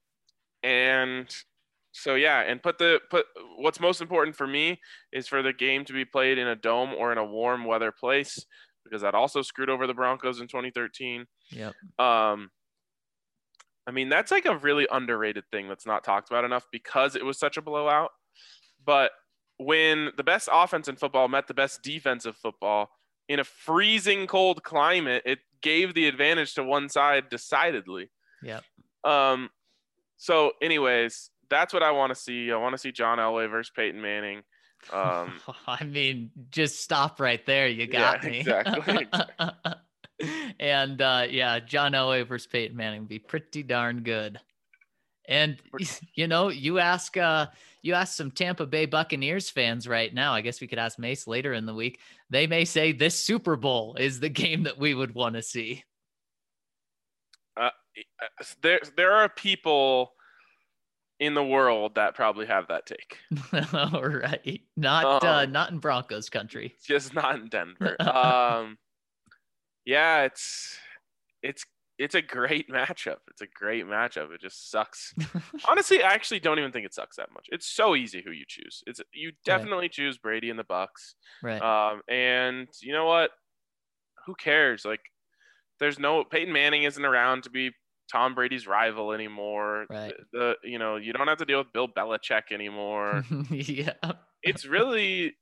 and so, yeah, and put the put what's most important for me is for the game to be played in a dome or in a warm weather place, because that also screwed over the Broncos in twenty thirteen. Yep. Um, I mean, that's like a really underrated thing that's not talked about enough because it was such a blowout. But when the best offense in football met the best defensive football in a freezing cold climate, it gave the advantage to one side decidedly. Yep. Um, so anyways, that's what I want to see. I want to see John Elway versus Peyton Manning. Um, I mean, just stop right there. You got yeah, me. Exactly. And uh, yeah, John Elway versus Peyton Manning would be pretty darn good. And you know, you ask uh, you ask some Tampa Bay Buccaneers fans right now. I guess we could ask Mace later in the week. They may say this Super Bowl is the game that we would want to see. Uh, there, there are people in the world that probably have that take. All right, not um, uh, not in Broncos country. Just not in Denver. um, yeah, it's it's it's a great matchup. It's a great matchup. It just sucks. Honestly, I actually don't even think it sucks that much. It's so easy who you choose. It's you definitely right. choose Brady and the Bucks. Right. Um, and you know what? Who cares? Like, there's no Peyton Manning isn't around to be Tom Brady's rival anymore. Right. The, the you know, you don't have to deal with Bill Belichick anymore. Yeah. It's really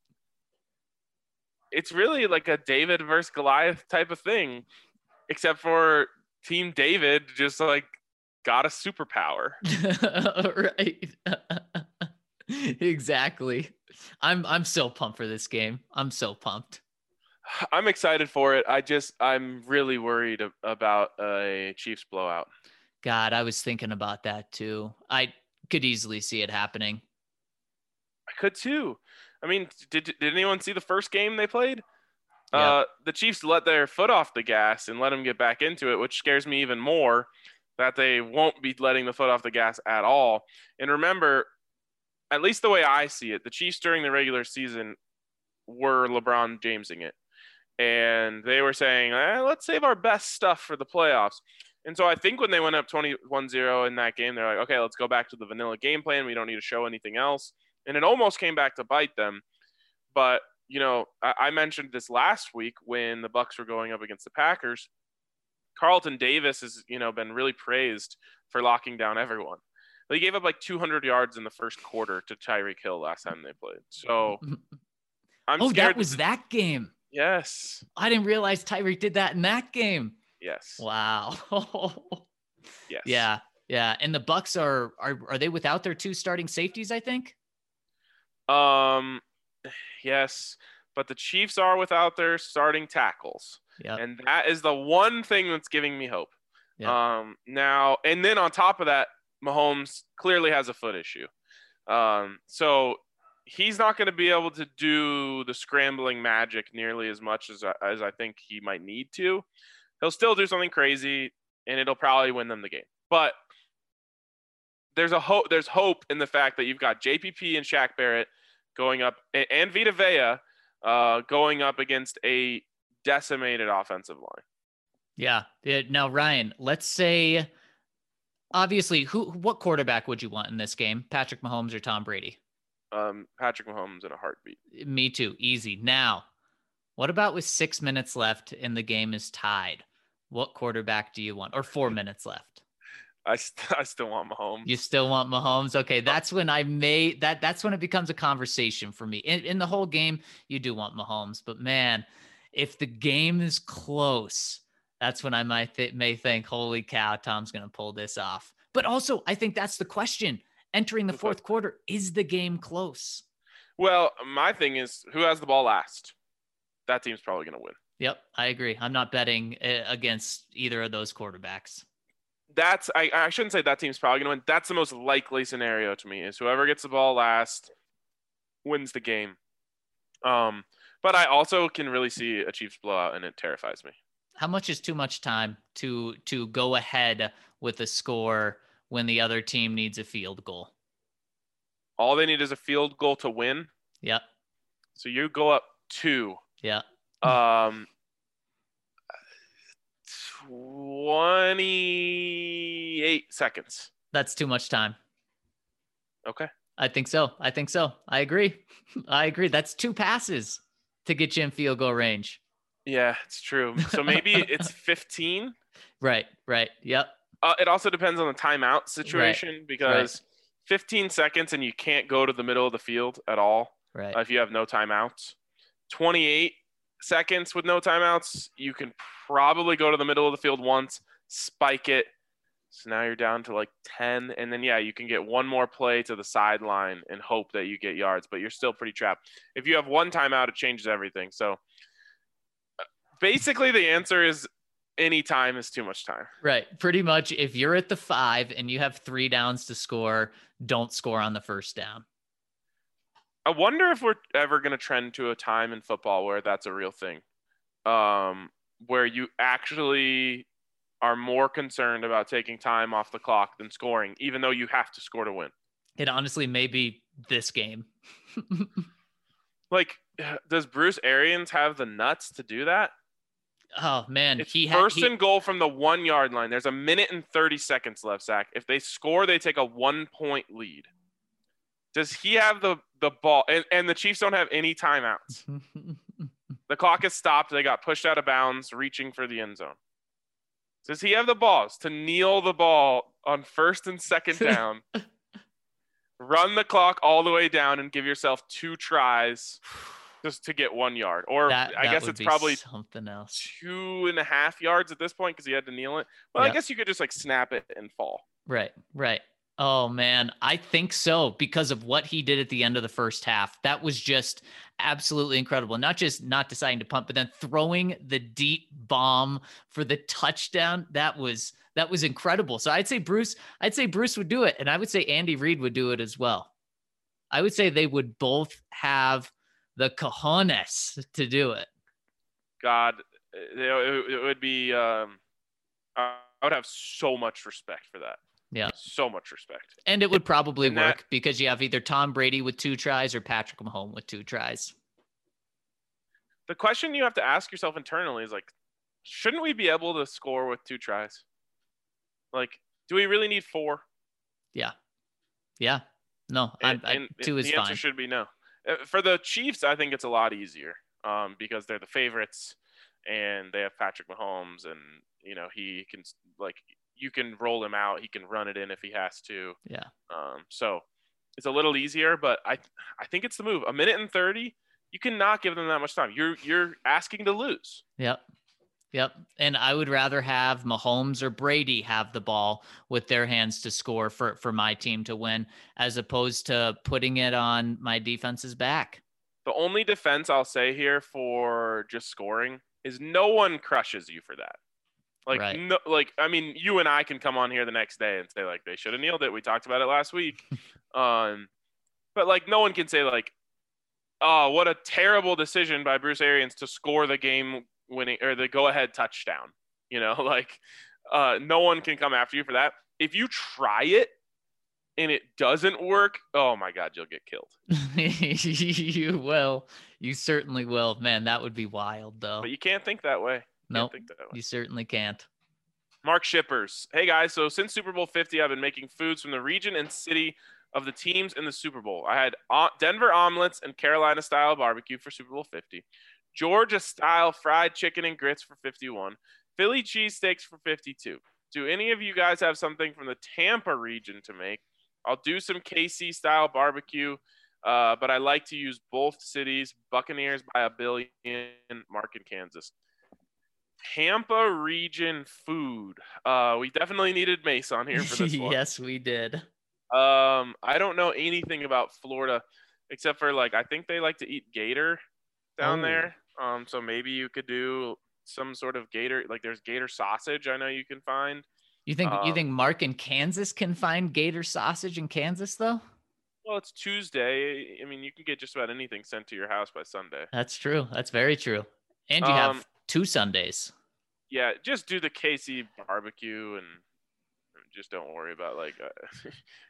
it's really like a David versus Goliath type of thing, except for Team David just like got a superpower. Right. Exactly. I'm I'm so pumped for this game. I'm so pumped. I'm excited for it. I just I'm really worried about a Chiefs blowout. God, I was thinking about that too. I could easily see it happening. I could too. I mean, did did anyone see the first game they played? Yep. Uh, the Chiefs let their foot off the gas and let them get back into it, which scares me even more that they won't be letting the foot off the gas at all. And remember, at least the way I see it, the Chiefs during the regular season were LeBron Jamesing it. And they were saying, eh, let's save our best stuff for the playoffs. And so I think when they went up twenty-one zero in that game, they're like, okay, let's go back to the vanilla game plan. We don't need to show anything else. And it almost came back to bite them. But, you know, I, I mentioned this last week when the Bucs were going up against the Packers. Carlton Davis has, you know, been really praised for locking down everyone. They gave up like two hundred yards in the first quarter to Tyreek Hill last time they played. So I'm oh, scared. that was that game. Yes. I didn't realize Tyreek did that in that game. Yes. Wow. Yes. Yeah. Yeah. And the Bucs are, are, are they without their two starting safeties, I think? Um, yes, but the Chiefs are without their starting tackles. Yeah. And that is the one thing that's giving me hope. Yep. Um, now, and then on top of that, Mahomes clearly has a foot issue. Um, so he's not going to be able to do the scrambling magic nearly as much as, as I think he might need to. He'll still do something crazy, and it'll probably win them the game. But there's a hope. There's hope in the fact that you've got J P P and Shaq Barrett going up, and Vita Vea uh, going up against a decimated offensive line. Yeah. Now, Ryan, let's say, obviously, who, what quarterback would you want in this game? Patrick Mahomes or Tom Brady? Um, Patrick Mahomes in a heartbeat. Me too. Easy. Now, what about with six minutes left and the game is tied? What quarterback do you want? Or four minutes left? I, st- I still want Mahomes. You still want Mahomes? Okay, that's when I may that that's when it becomes a conversation for me. In, in the whole game, you do want Mahomes, but man, if the game is close, that's when I might th- may think, holy cow, Tom's going to pull this off. But also, I think that's the question. Entering the fourth quarter, is the game close? Well, my thing is, who has the ball last? That team's probably going to win. Yep, I agree. I'm not betting uh, against either of those quarterbacks. that's I, I shouldn't say that team's probably going to win. That's the most likely scenario to me is whoever gets the ball last wins the game. Um, but I also can really see a Chiefs blowout, and it terrifies me. How much is too much time to to go ahead with a score when the other team needs a field goal? All they need is a field goal to win. Yep. So you go up two. Yeah. Um, twenty-eight seconds. That's too much time. Okay. I think so. I think so. I agree. I agree. That's two passes to get you in field goal range. Yeah, it's true. So maybe it's fifteen. Right. Right. Yep. Uh, it also depends on the timeout situation right. because right. fifteen seconds and you can't go to the middle of the field at all. Right. Uh, if you have no timeouts. twenty-eight seconds with no timeouts, you can probably go to the middle of the field once, spike it. So now you're down to like ten. And then, yeah, you can get one more play to the sideline and hope that you get yards, but you're still pretty trapped. If you have one timeout, it changes everything. So basically the answer is any time is too much time. Right. Pretty much if you're at the five and you have three downs to score, don't score on the first down. I wonder if we're ever going to trend to a time in football where that's a real thing, um, where you actually are more concerned about taking time off the clock than scoring, even though you have to score to win. It honestly may be this game. Like, does Bruce Arians have the nuts to do that? Oh, man. It's he first ha- he- and goal from the one-yard line. There's a minute and thirty seconds left, Zach. If they score, they take a one-point lead. Does he have the, the ball? And, and the Chiefs don't have any timeouts. The clock is stopped. They got pushed out of bounds, reaching for the end zone. Does he have the balls to kneel the ball on first and second down, run the clock all the way down, and give yourself two tries just to get one yard? Or that, I that guess would it's be probably something else. two and a half yards at this point because he had to kneel it. Well, Yep. I guess you could just like snap it and fall. Right, right. Oh, man. I think so because of what he did at the end of the first half. That was just absolutely incredible. Not just not deciding to punt, but then throwing the deep bomb for the touchdown. That was that was incredible. So I'd say Bruce, I'd say Bruce would do it. And I would say Andy Reid would do it as well. I would say they would both have the cojones to do it. God, it, it, it would be, um, I would have so much respect for that. Yeah. So much respect. And it would probably And work that- because you have either Tom Brady with two tries or Patrick Mahomes with two tries. The question you have to ask yourself internally is like, shouldn't we be able to score with two tries? Like, do we really need four? Yeah. Yeah. No, And, I'm, I, and two is the answer fine. should be no. Uh, For the Chiefs, I think it's a lot easier um, because they're the favorites and they have Patrick Mahomes, and you know he can like you can roll him out, he can run it in if he has to. Yeah. Um, so it's a little easier, but I I think it's the move. A minute and thirty, you cannot give them that much time. You're you're asking to lose. Yep. Yep. And I would rather have Mahomes or Brady have the ball with their hands to score for, for my team to win, as opposed to putting it on my defense's back. The only defense I'll say here for just scoring is no one crushes you for that. Like, Right. no, like I mean, you and I can come on here the next day and say, like, they should have kneeled it. We talked about it last week. um, but, like, no one can say, like, oh, what a terrible decision by Bruce Arians to score the game winning or the go-ahead touchdown. You know, like, uh, no one can come after you for that. If you try it and it doesn't work, oh, my God, you'll get killed. You will. You certainly will. Man, that would be wild, though. But you can't think that way. You Nope. can't think that way. You certainly can't. Mark Shippers. Hey, guys. So since Super Bowl fifty, I've been making foods from the region and city of the teams in the Super Bowl. I had uh, Denver omelets and Carolina-style barbecue for Super Bowl fifty, Georgia-style fried chicken and grits for fifty-one, Philly cheesesteaks for fifty-two. Do any of you guys have something from the Tampa region to make? I'll do some K C-style barbecue, uh, but I like to use both cities. Buccaneers by a billion, Mark in Kansas. Tampa region food. Uh, we definitely needed Mace on here for this one. Yes, we did. Um, I don't know anything about Florida except for like I think they like to eat gator down Oh. there. Um, so maybe you could do some sort of gator. Like there's gator sausage. I know you can find. You think you Um, think Mark in Kansas can find gator sausage in Kansas though? well, it's Tuesday. I mean, you can get just about anything sent to your house by Sunday. That's true. That's very true. And you Um, have two Sundays. yeah, just do the K C barbecue and just don't worry about like. Uh,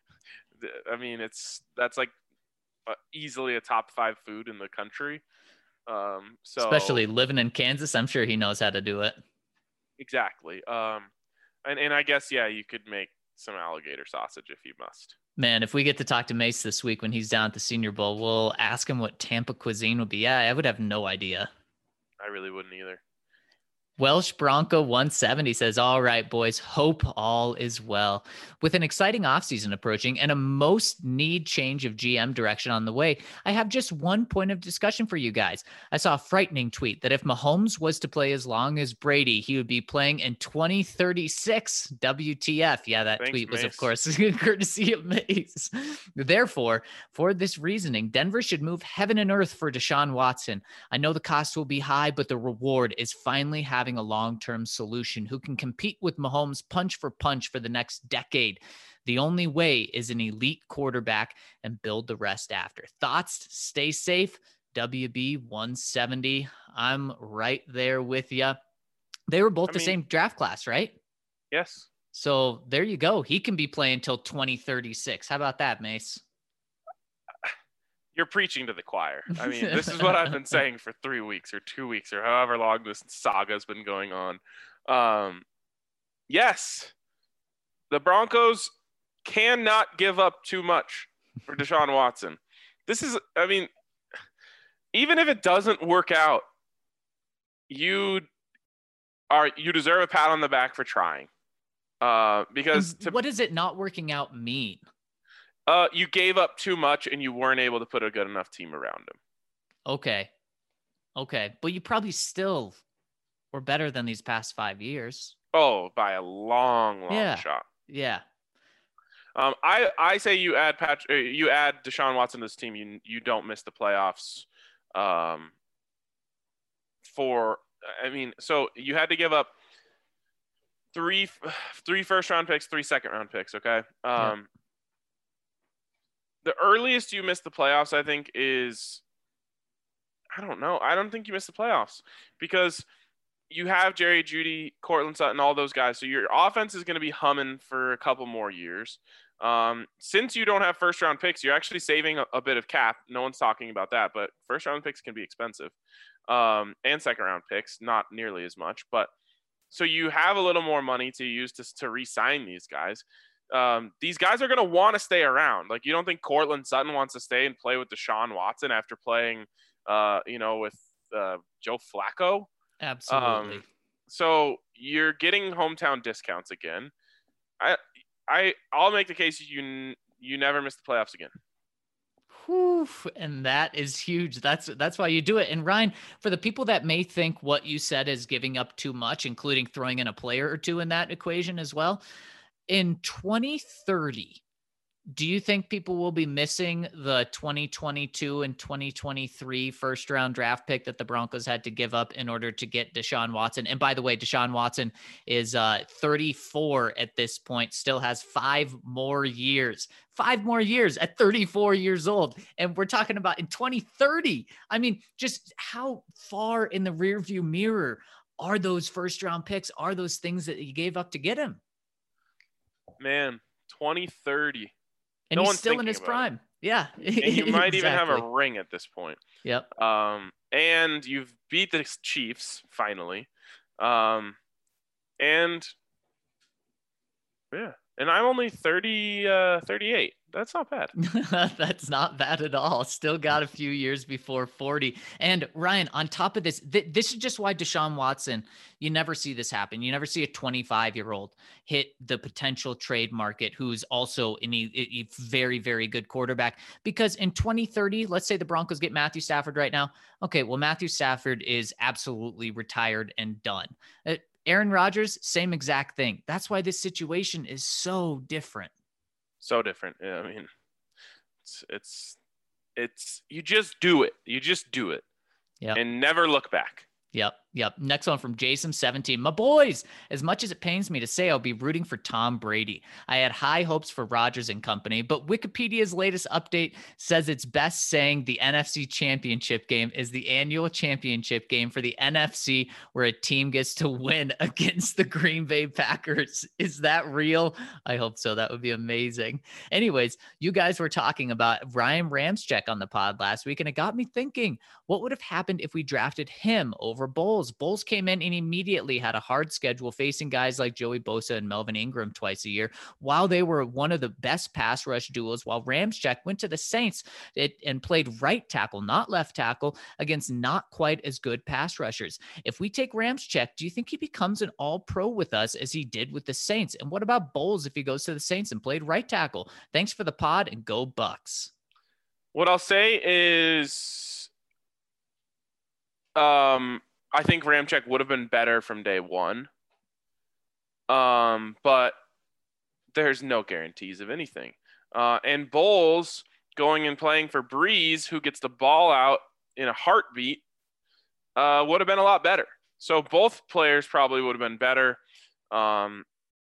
I mean, it's that's like uh, easily a top five food in the country. Um, so Especially living in Kansas, I'm sure he knows how to do it. exactly. Um, and and I guess yeah, you could make some alligator sausage if you must. Man, if we get to talk to Mace this week when he's down at the Senior Bowl, we'll ask him what Tampa cuisine would be. Yeah, I would have no idea. I really wouldn't either. Welsh Bronco one seventy says, all right, boys, hope all is well. With an exciting offseason approaching and a most need change of G M direction on the way, I have just one point of discussion for you guys. I saw a frightening tweet that if Mahomes was to play as long as Brady, he would be playing in twenty thirty-six. W T F. Yeah, that Thanks, tweet was, Mace. of course, courtesy of Mace. Therefore, for this reasoning, Denver should move heaven and earth for Deshaun Watson. I know the cost will be high, but the reward is finally having a long-term solution who can compete with Mahomes punch for punch for the next decade. The only way is an elite quarterback and build the rest after. Thoughts? Stay safe. W B one seventy. I'm right there with you. They were both I the mean- same draft class, right? Yes. So there you go. He can be playing until twenty thirty-six. How about that, Mace? You're preaching to the choir. I mean, this is what I've been saying for three weeks or two weeks or however long this saga's been going on. Um, yes, the Broncos cannot give up too much for Deshaun Watson. This is, I mean, even if it doesn't work out, you are you deserve a pat on the back for trying. Uh, because to, What does it not working out mean? uh, you gave up too much and you weren't able to put a good enough team around him. Okay. Okay. But you probably still were better than these past five years. Oh, by a long, long Yeah. shot. Yeah. Um, I, I say you add Pat, uh, you add Deshaun Watson to this team. You you don't miss the playoffs. Um, for I mean, so you had to give up three three first round picks, three second round picks. Okay. Um, Yeah. The earliest you miss the playoffs, I think, is I don't know. I don't think you miss the playoffs because you have Jerry Jeudy, Cortland Sutton, all those guys. So your offense is going to be humming for a couple more years. Um, since you don't have first round picks, you're actually saving a, a bit of cap. No one's talking about that, but first round picks can be expensive. Um, and second round picks, not nearly as much. But so you have a little more money to use to, to re-sign these guys. Um, these guys are going to want to stay around. Like, you don't think Cortland Sutton wants to stay and play with Deshaun Watson after playing, uh, you know, with uh, Joe Flacco? Absolutely. Um, so you're getting hometown discounts again. I, I, I'll make the case you you never miss the playoffs again. Whew, and that is huge. That's that's why you do it. And Ryan, for the people that may think what you said is giving up too much, including throwing in a player or two in that equation as well, in twenty thirty, do you think people will be missing the twenty twenty-two and twenty twenty-three first round draft pick that the Broncos had to give up in order to get Deshaun Watson? And by the way, Deshaun Watson is uh, thirty-four at this point, still has five more years, five more years at thirty-four years old. And we're talking about in twenty thirty. I mean, just how far in the rearview mirror are those first round picks? Are those things that you gave up to get him? Man, twenty thirty. And No he's one's still in thinking his about prime. Yeah. And you might even have a Exactly. ring at this point. Yep. Um, and you've beat the Chiefs finally. Um, and yeah, and I'm only thirty, uh, thirty-eight. That's not bad. That's not bad at all. Still got a few years before forty. And Ryan, on top of this, th- this is just why Deshaun Watson, you never see this happen. You never see a twenty-five year old hit the potential trade market who's also in a, a very, very good quarterback. Because in twenty thirty, let's say the Broncos get Matthew Stafford right now. Okay, well, Matthew Stafford is absolutely retired and done. Uh, Aaron Rodgers, same exact thing. That's why this situation is so different. So different. Yeah, I mean, it's, it's, it's, you just do it. You just do it. Yep. And never look back. Yep. Yep. Next one from Jason seventeen. My boys, as much as it pains me to say, I'll be rooting for Tom Brady. I had high hopes for Rodgers and company, but Wikipedia's latest update says it's best saying the N F C Championship game is the annual championship game for the N F C where a team gets to win against the Green Bay Packers. Is that real? I hope so. That would be amazing. Anyways, you guys were talking about Ryan Ramczyk on the pod last week, and it got me thinking, what would have happened if we drafted him over Bowles? Bowles came in and immediately had a hard schedule facing guys like Joey Bosa and Melvin Ingram twice a year, while they were one of the best pass rush duos, while Ramczyk went to the Saints it, and played right tackle, not left tackle, against not quite as good pass rushers. If we take Ramczyk, do you think he becomes an all-pro with us as he did with the Saints? And what about Bowles if he goes to the Saints and played right tackle? Thanks for the pod, and go Bucks. What I'll say is um, I think Ramczyk would have been better from day one. Um, but there's no guarantees of anything. Uh, and Bowles going and playing for Breeze, who gets the ball out in a heartbeat, uh, would have been a lot better. So both players probably would have been better. Um,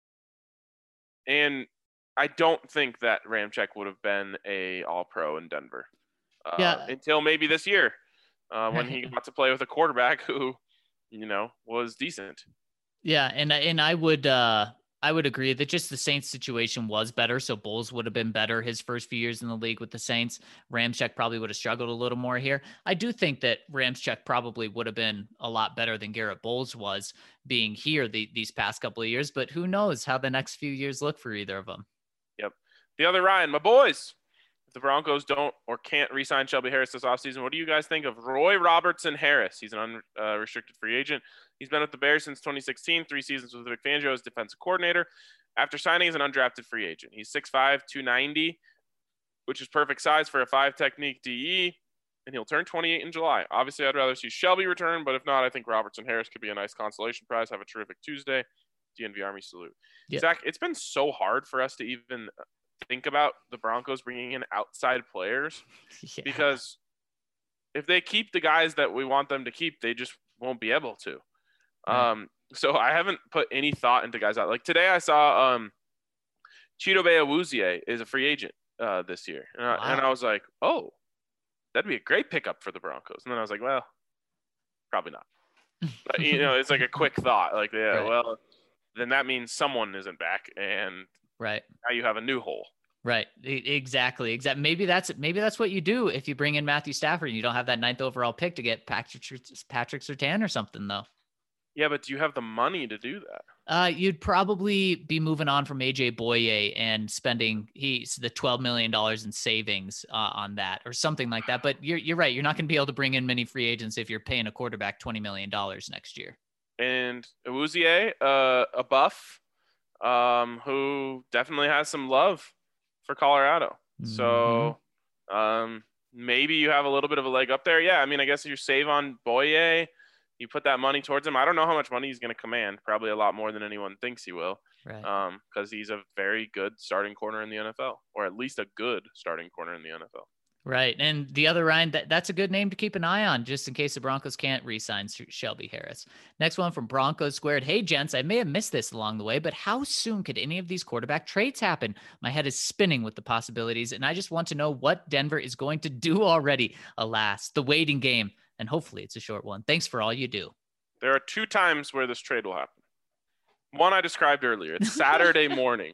and I don't think that Ramczyk would have been a all-pro in Denver uh, yeah. until maybe this year uh, when he got to play with a quarterback who, you know, was decent. Yeah, and and I would uh, I would agree that just the Saints situation was better, so Bowles would have been better his first few years in the league with the Saints. Ramczyk probably would have struggled a little more here. I do think that Ramczyk probably would have been a lot better than Garrett Bowles was being here the, these past couple of years, but who knows how the next few years look for either of them. Yep. The other Ryan, my boys. If the Broncos don't or can't re-sign Shelby Harris this offseason, what do you guys think of Roy Robertson Harris? He's an unrestricted free agent. He's been with the Bears since twenty sixteen, three seasons with Vic Fangio as defensive coordinator. After signing as an undrafted free agent, he's six five, two ninety, which is perfect size for a five-technique D E, and he'll turn twenty-eight in July. Obviously, I'd rather see Shelby return, but if not, I think Robertson Harris could be a nice consolation prize. Have a terrific Tuesday. D N V Army salute. Yeah. Zach, it's been so hard for us to even think about the Broncos bringing in outside players yeah. because if they keep the guys that we want them to keep, they just won't be able to. Right. Um, so I haven't put any thought into guys out. Like today I saw um, Chidobe Awuzie is a free agent uh, this year. And I, wow. and I was like, oh, that'd be a great pickup for the Broncos. And then I was like, well, probably not. But, you know, it's like a quick thought. Like, yeah, right. well, then that means someone isn't back. And right now you have a new hole. Right. Exactly. Exactly. Maybe that's maybe that's what you do if you bring in Matthew Stafford and you don't have that ninth overall pick to get Patrick Patrick Surtain or something, though. Yeah, but do you have the money to do that? Uh, you'd probably be moving on from A J Boye and spending he's the twelve million dollars in savings uh, on that or something like that. But you're you're right. You're not going to be able to bring in many free agents if you're paying a quarterback twenty million dollars next year. And Awuzie, uh, a buff, um, who definitely has some love for Colorado. Mm-hmm. So um, maybe you have a little bit of a leg up there. Yeah, I mean, I guess if you save on Boye, you put that money towards him. I don't know how much money he's going to command. Probably a lot more than anyone thinks he will. Right. Um, because he's a very good starting corner in the N F L, or at least a good starting corner in the N F L. Right. And the other Ryan, that, that's a good name to keep an eye on just in case the Broncos can't re-sign Shelby Harris. Next one from Broncos Squared. Hey, gents, I may have missed this along the way, but how soon could any of these quarterback trades happen? My head is spinning with the possibilities, and I just want to know what Denver is going to do already. Alas, the waiting game, and hopefully it's a short one. Thanks for all you do. There are two times where this trade will happen. One I described earlier. It's Saturday morning.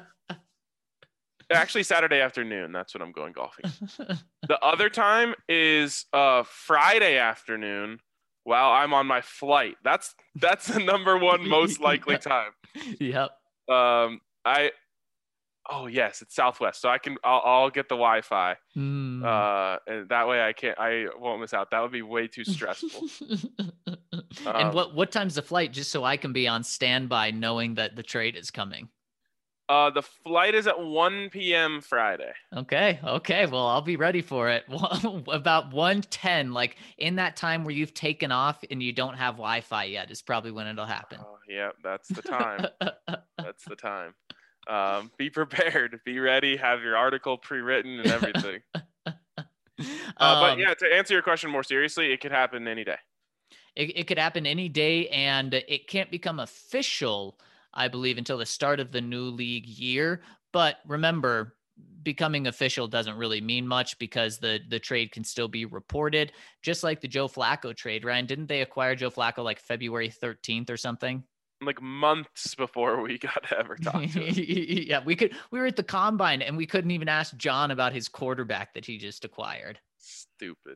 Actually, Saturday afternoon. That's when I'm going golfing. The other time is uh, Friday afternoon while I'm on my flight. That's that's the number one most likely time. Yep. Um, I. Oh yes, it's Southwest, so I can. I'll, I'll get the Wi-Fi. Mm. Uh, and that way I can't. I won't miss out. That would be way too stressful. um, and what what time's the flight? Just so I can be on standby, knowing that the trade is coming. Uh, the flight is at one p.m. Friday. Okay. Okay. Well, I'll be ready for it. About one ten, like in that time where you've taken off and you don't have Wi-Fi yet is probably when it'll happen. Oh, yeah, that's the time. That's the time. Um, be prepared. Be ready. Have your article pre-written and everything. uh, um, but yeah, to answer your question more seriously, it could happen any day. it, it could happen any day, and it can't become official, I believe, until the start of the new league year. But remember, becoming official doesn't really mean much because the the trade can still be reported, just like the Joe Flacco trade. Ryan, didn't they acquire Joe Flacco like February thirteenth or something? Like months before we got to ever talk to him. Yeah, we could we were at the combine and we couldn't even ask John about his quarterback that he just acquired. Stupid.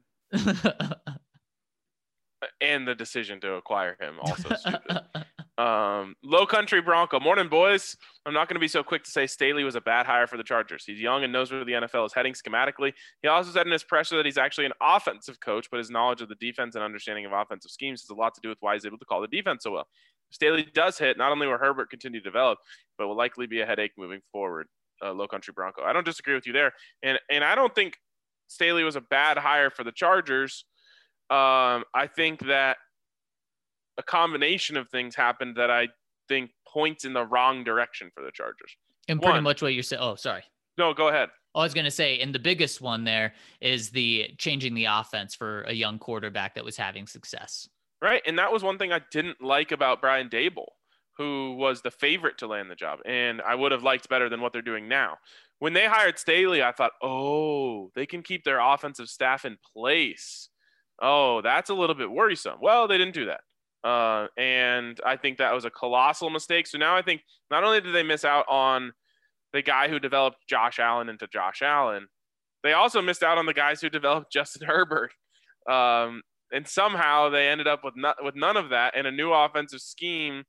And the decision to acquire him also stupid. Um, Low Country Bronco. Morning, boys. I'm not going to be so quick to say Staley was a bad hire for the Chargers. He's young and knows where the N F L is heading schematically. He also said in his presser that he's actually an offensive coach, but his knowledge of the defense and understanding of offensive schemes has a lot to do with why he's able to call the defense so well. If Staley does hit, not only will Herbert continue to develop, but will likely be a headache moving forward. Uh, Low Country Bronco. I don't disagree with you there. And, and I don't think Staley was a bad hire for the Chargers. Um, I think that a combination of things happened that I think points in the wrong direction for the Chargers. And pretty One, much what you're saying. Oh, sorry. No, go ahead. I was going to say, and the biggest one there is the changing the offense for a young quarterback that was having success. Right. And that was one thing I didn't like about Brian Daboll, who was the favorite to land the job. And I would have liked better than what they're doing now. When they hired Staley, I thought, oh, they can keep their offensive staff in place. Oh, that's a little bit worrisome. Well, they didn't do that. Uh, and I think that was a colossal mistake. So now I think not only did they miss out on the guy who developed Josh Allen into Josh Allen, they also missed out on the guys who developed Justin Herbert. Um, and somehow they ended up with not, with none of that and a new offensive scheme.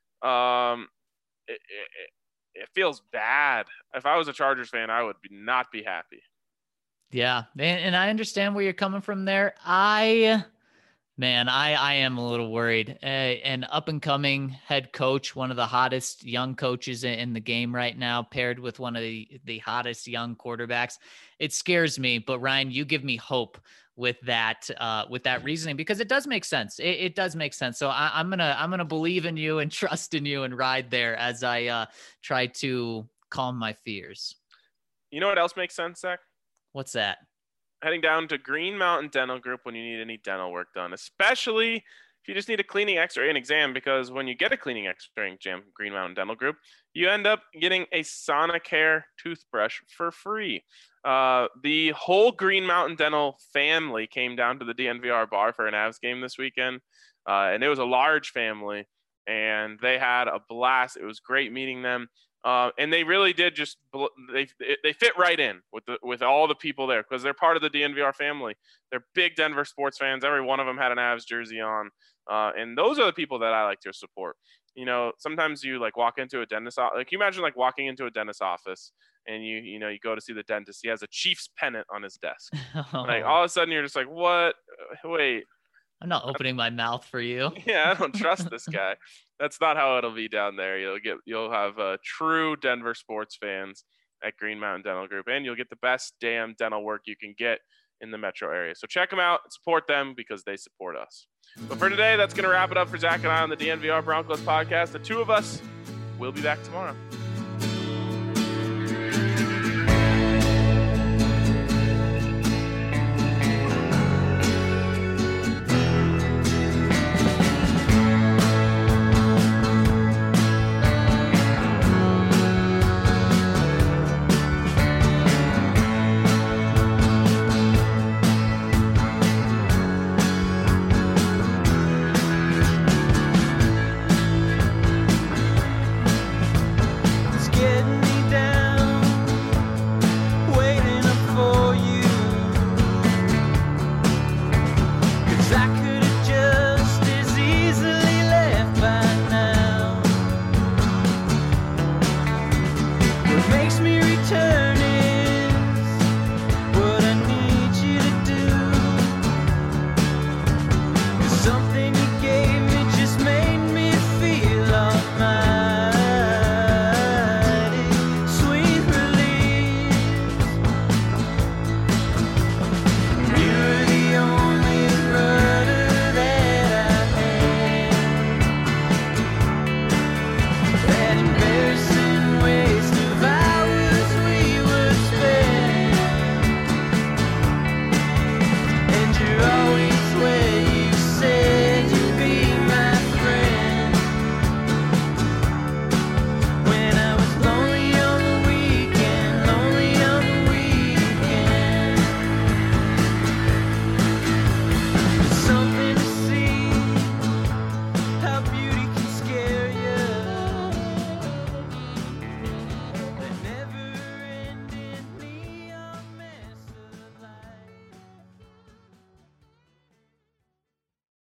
Um, it, it, it feels bad. If I was a Chargers fan, I would be, not be happy. Yeah. And, and I understand where you're coming from there. I... Man, I, I am a little worried. Uh, an up-and-coming head coach, one of the hottest young coaches in, in the game right now, paired with one of the, the hottest young quarterbacks. It scares me, but Ryan, you give me hope with that uh, with that reasoning because it does make sense. It, it does make sense. So I, I'm gonna I'm gonna believe in you and trust in you and ride there as I uh, try to calm my fears. You know what else makes sense, Zach? What's that? Heading down to Green Mountain Dental Group when you need any dental work done, especially if you just need a cleaning, x-ray, and exam, because when you get a cleaning, x-ray, and exam from Green Mountain Dental Group, you end up getting a Sonicare toothbrush for free. Uh, the whole Green Mountain Dental family came down to the D N V R bar for an Avs game this weekend, uh, and it was a large family, and they had a blast. It was great meeting them. Uh, and they really did just they they fit right in with the with all the people there because they're part of the D N V R family. They're big Denver sports fans. Every one of them had an Avs jersey on, uh, and those are the people that I like to support. You know, sometimes you like walk into a dentist office. Like, you imagine like walking into a dentist office and you you know you go to see the dentist. He has a Chiefs pennant on his desk. Oh. Like all of a sudden you're just like, what? Wait. I'm not opening my mouth for you. Yeah, I don't trust this guy. That's not how it'll be down there. You'll get, you'll have uh, true Denver sports fans at Green Mountain Dental Group, and you'll get the best damn dental work you can get in the metro area. So check them out and support them because they support us. But for today, that's going to wrap it up for Zach and I on the D N V R Broncos podcast. The two of us will be back tomorrow.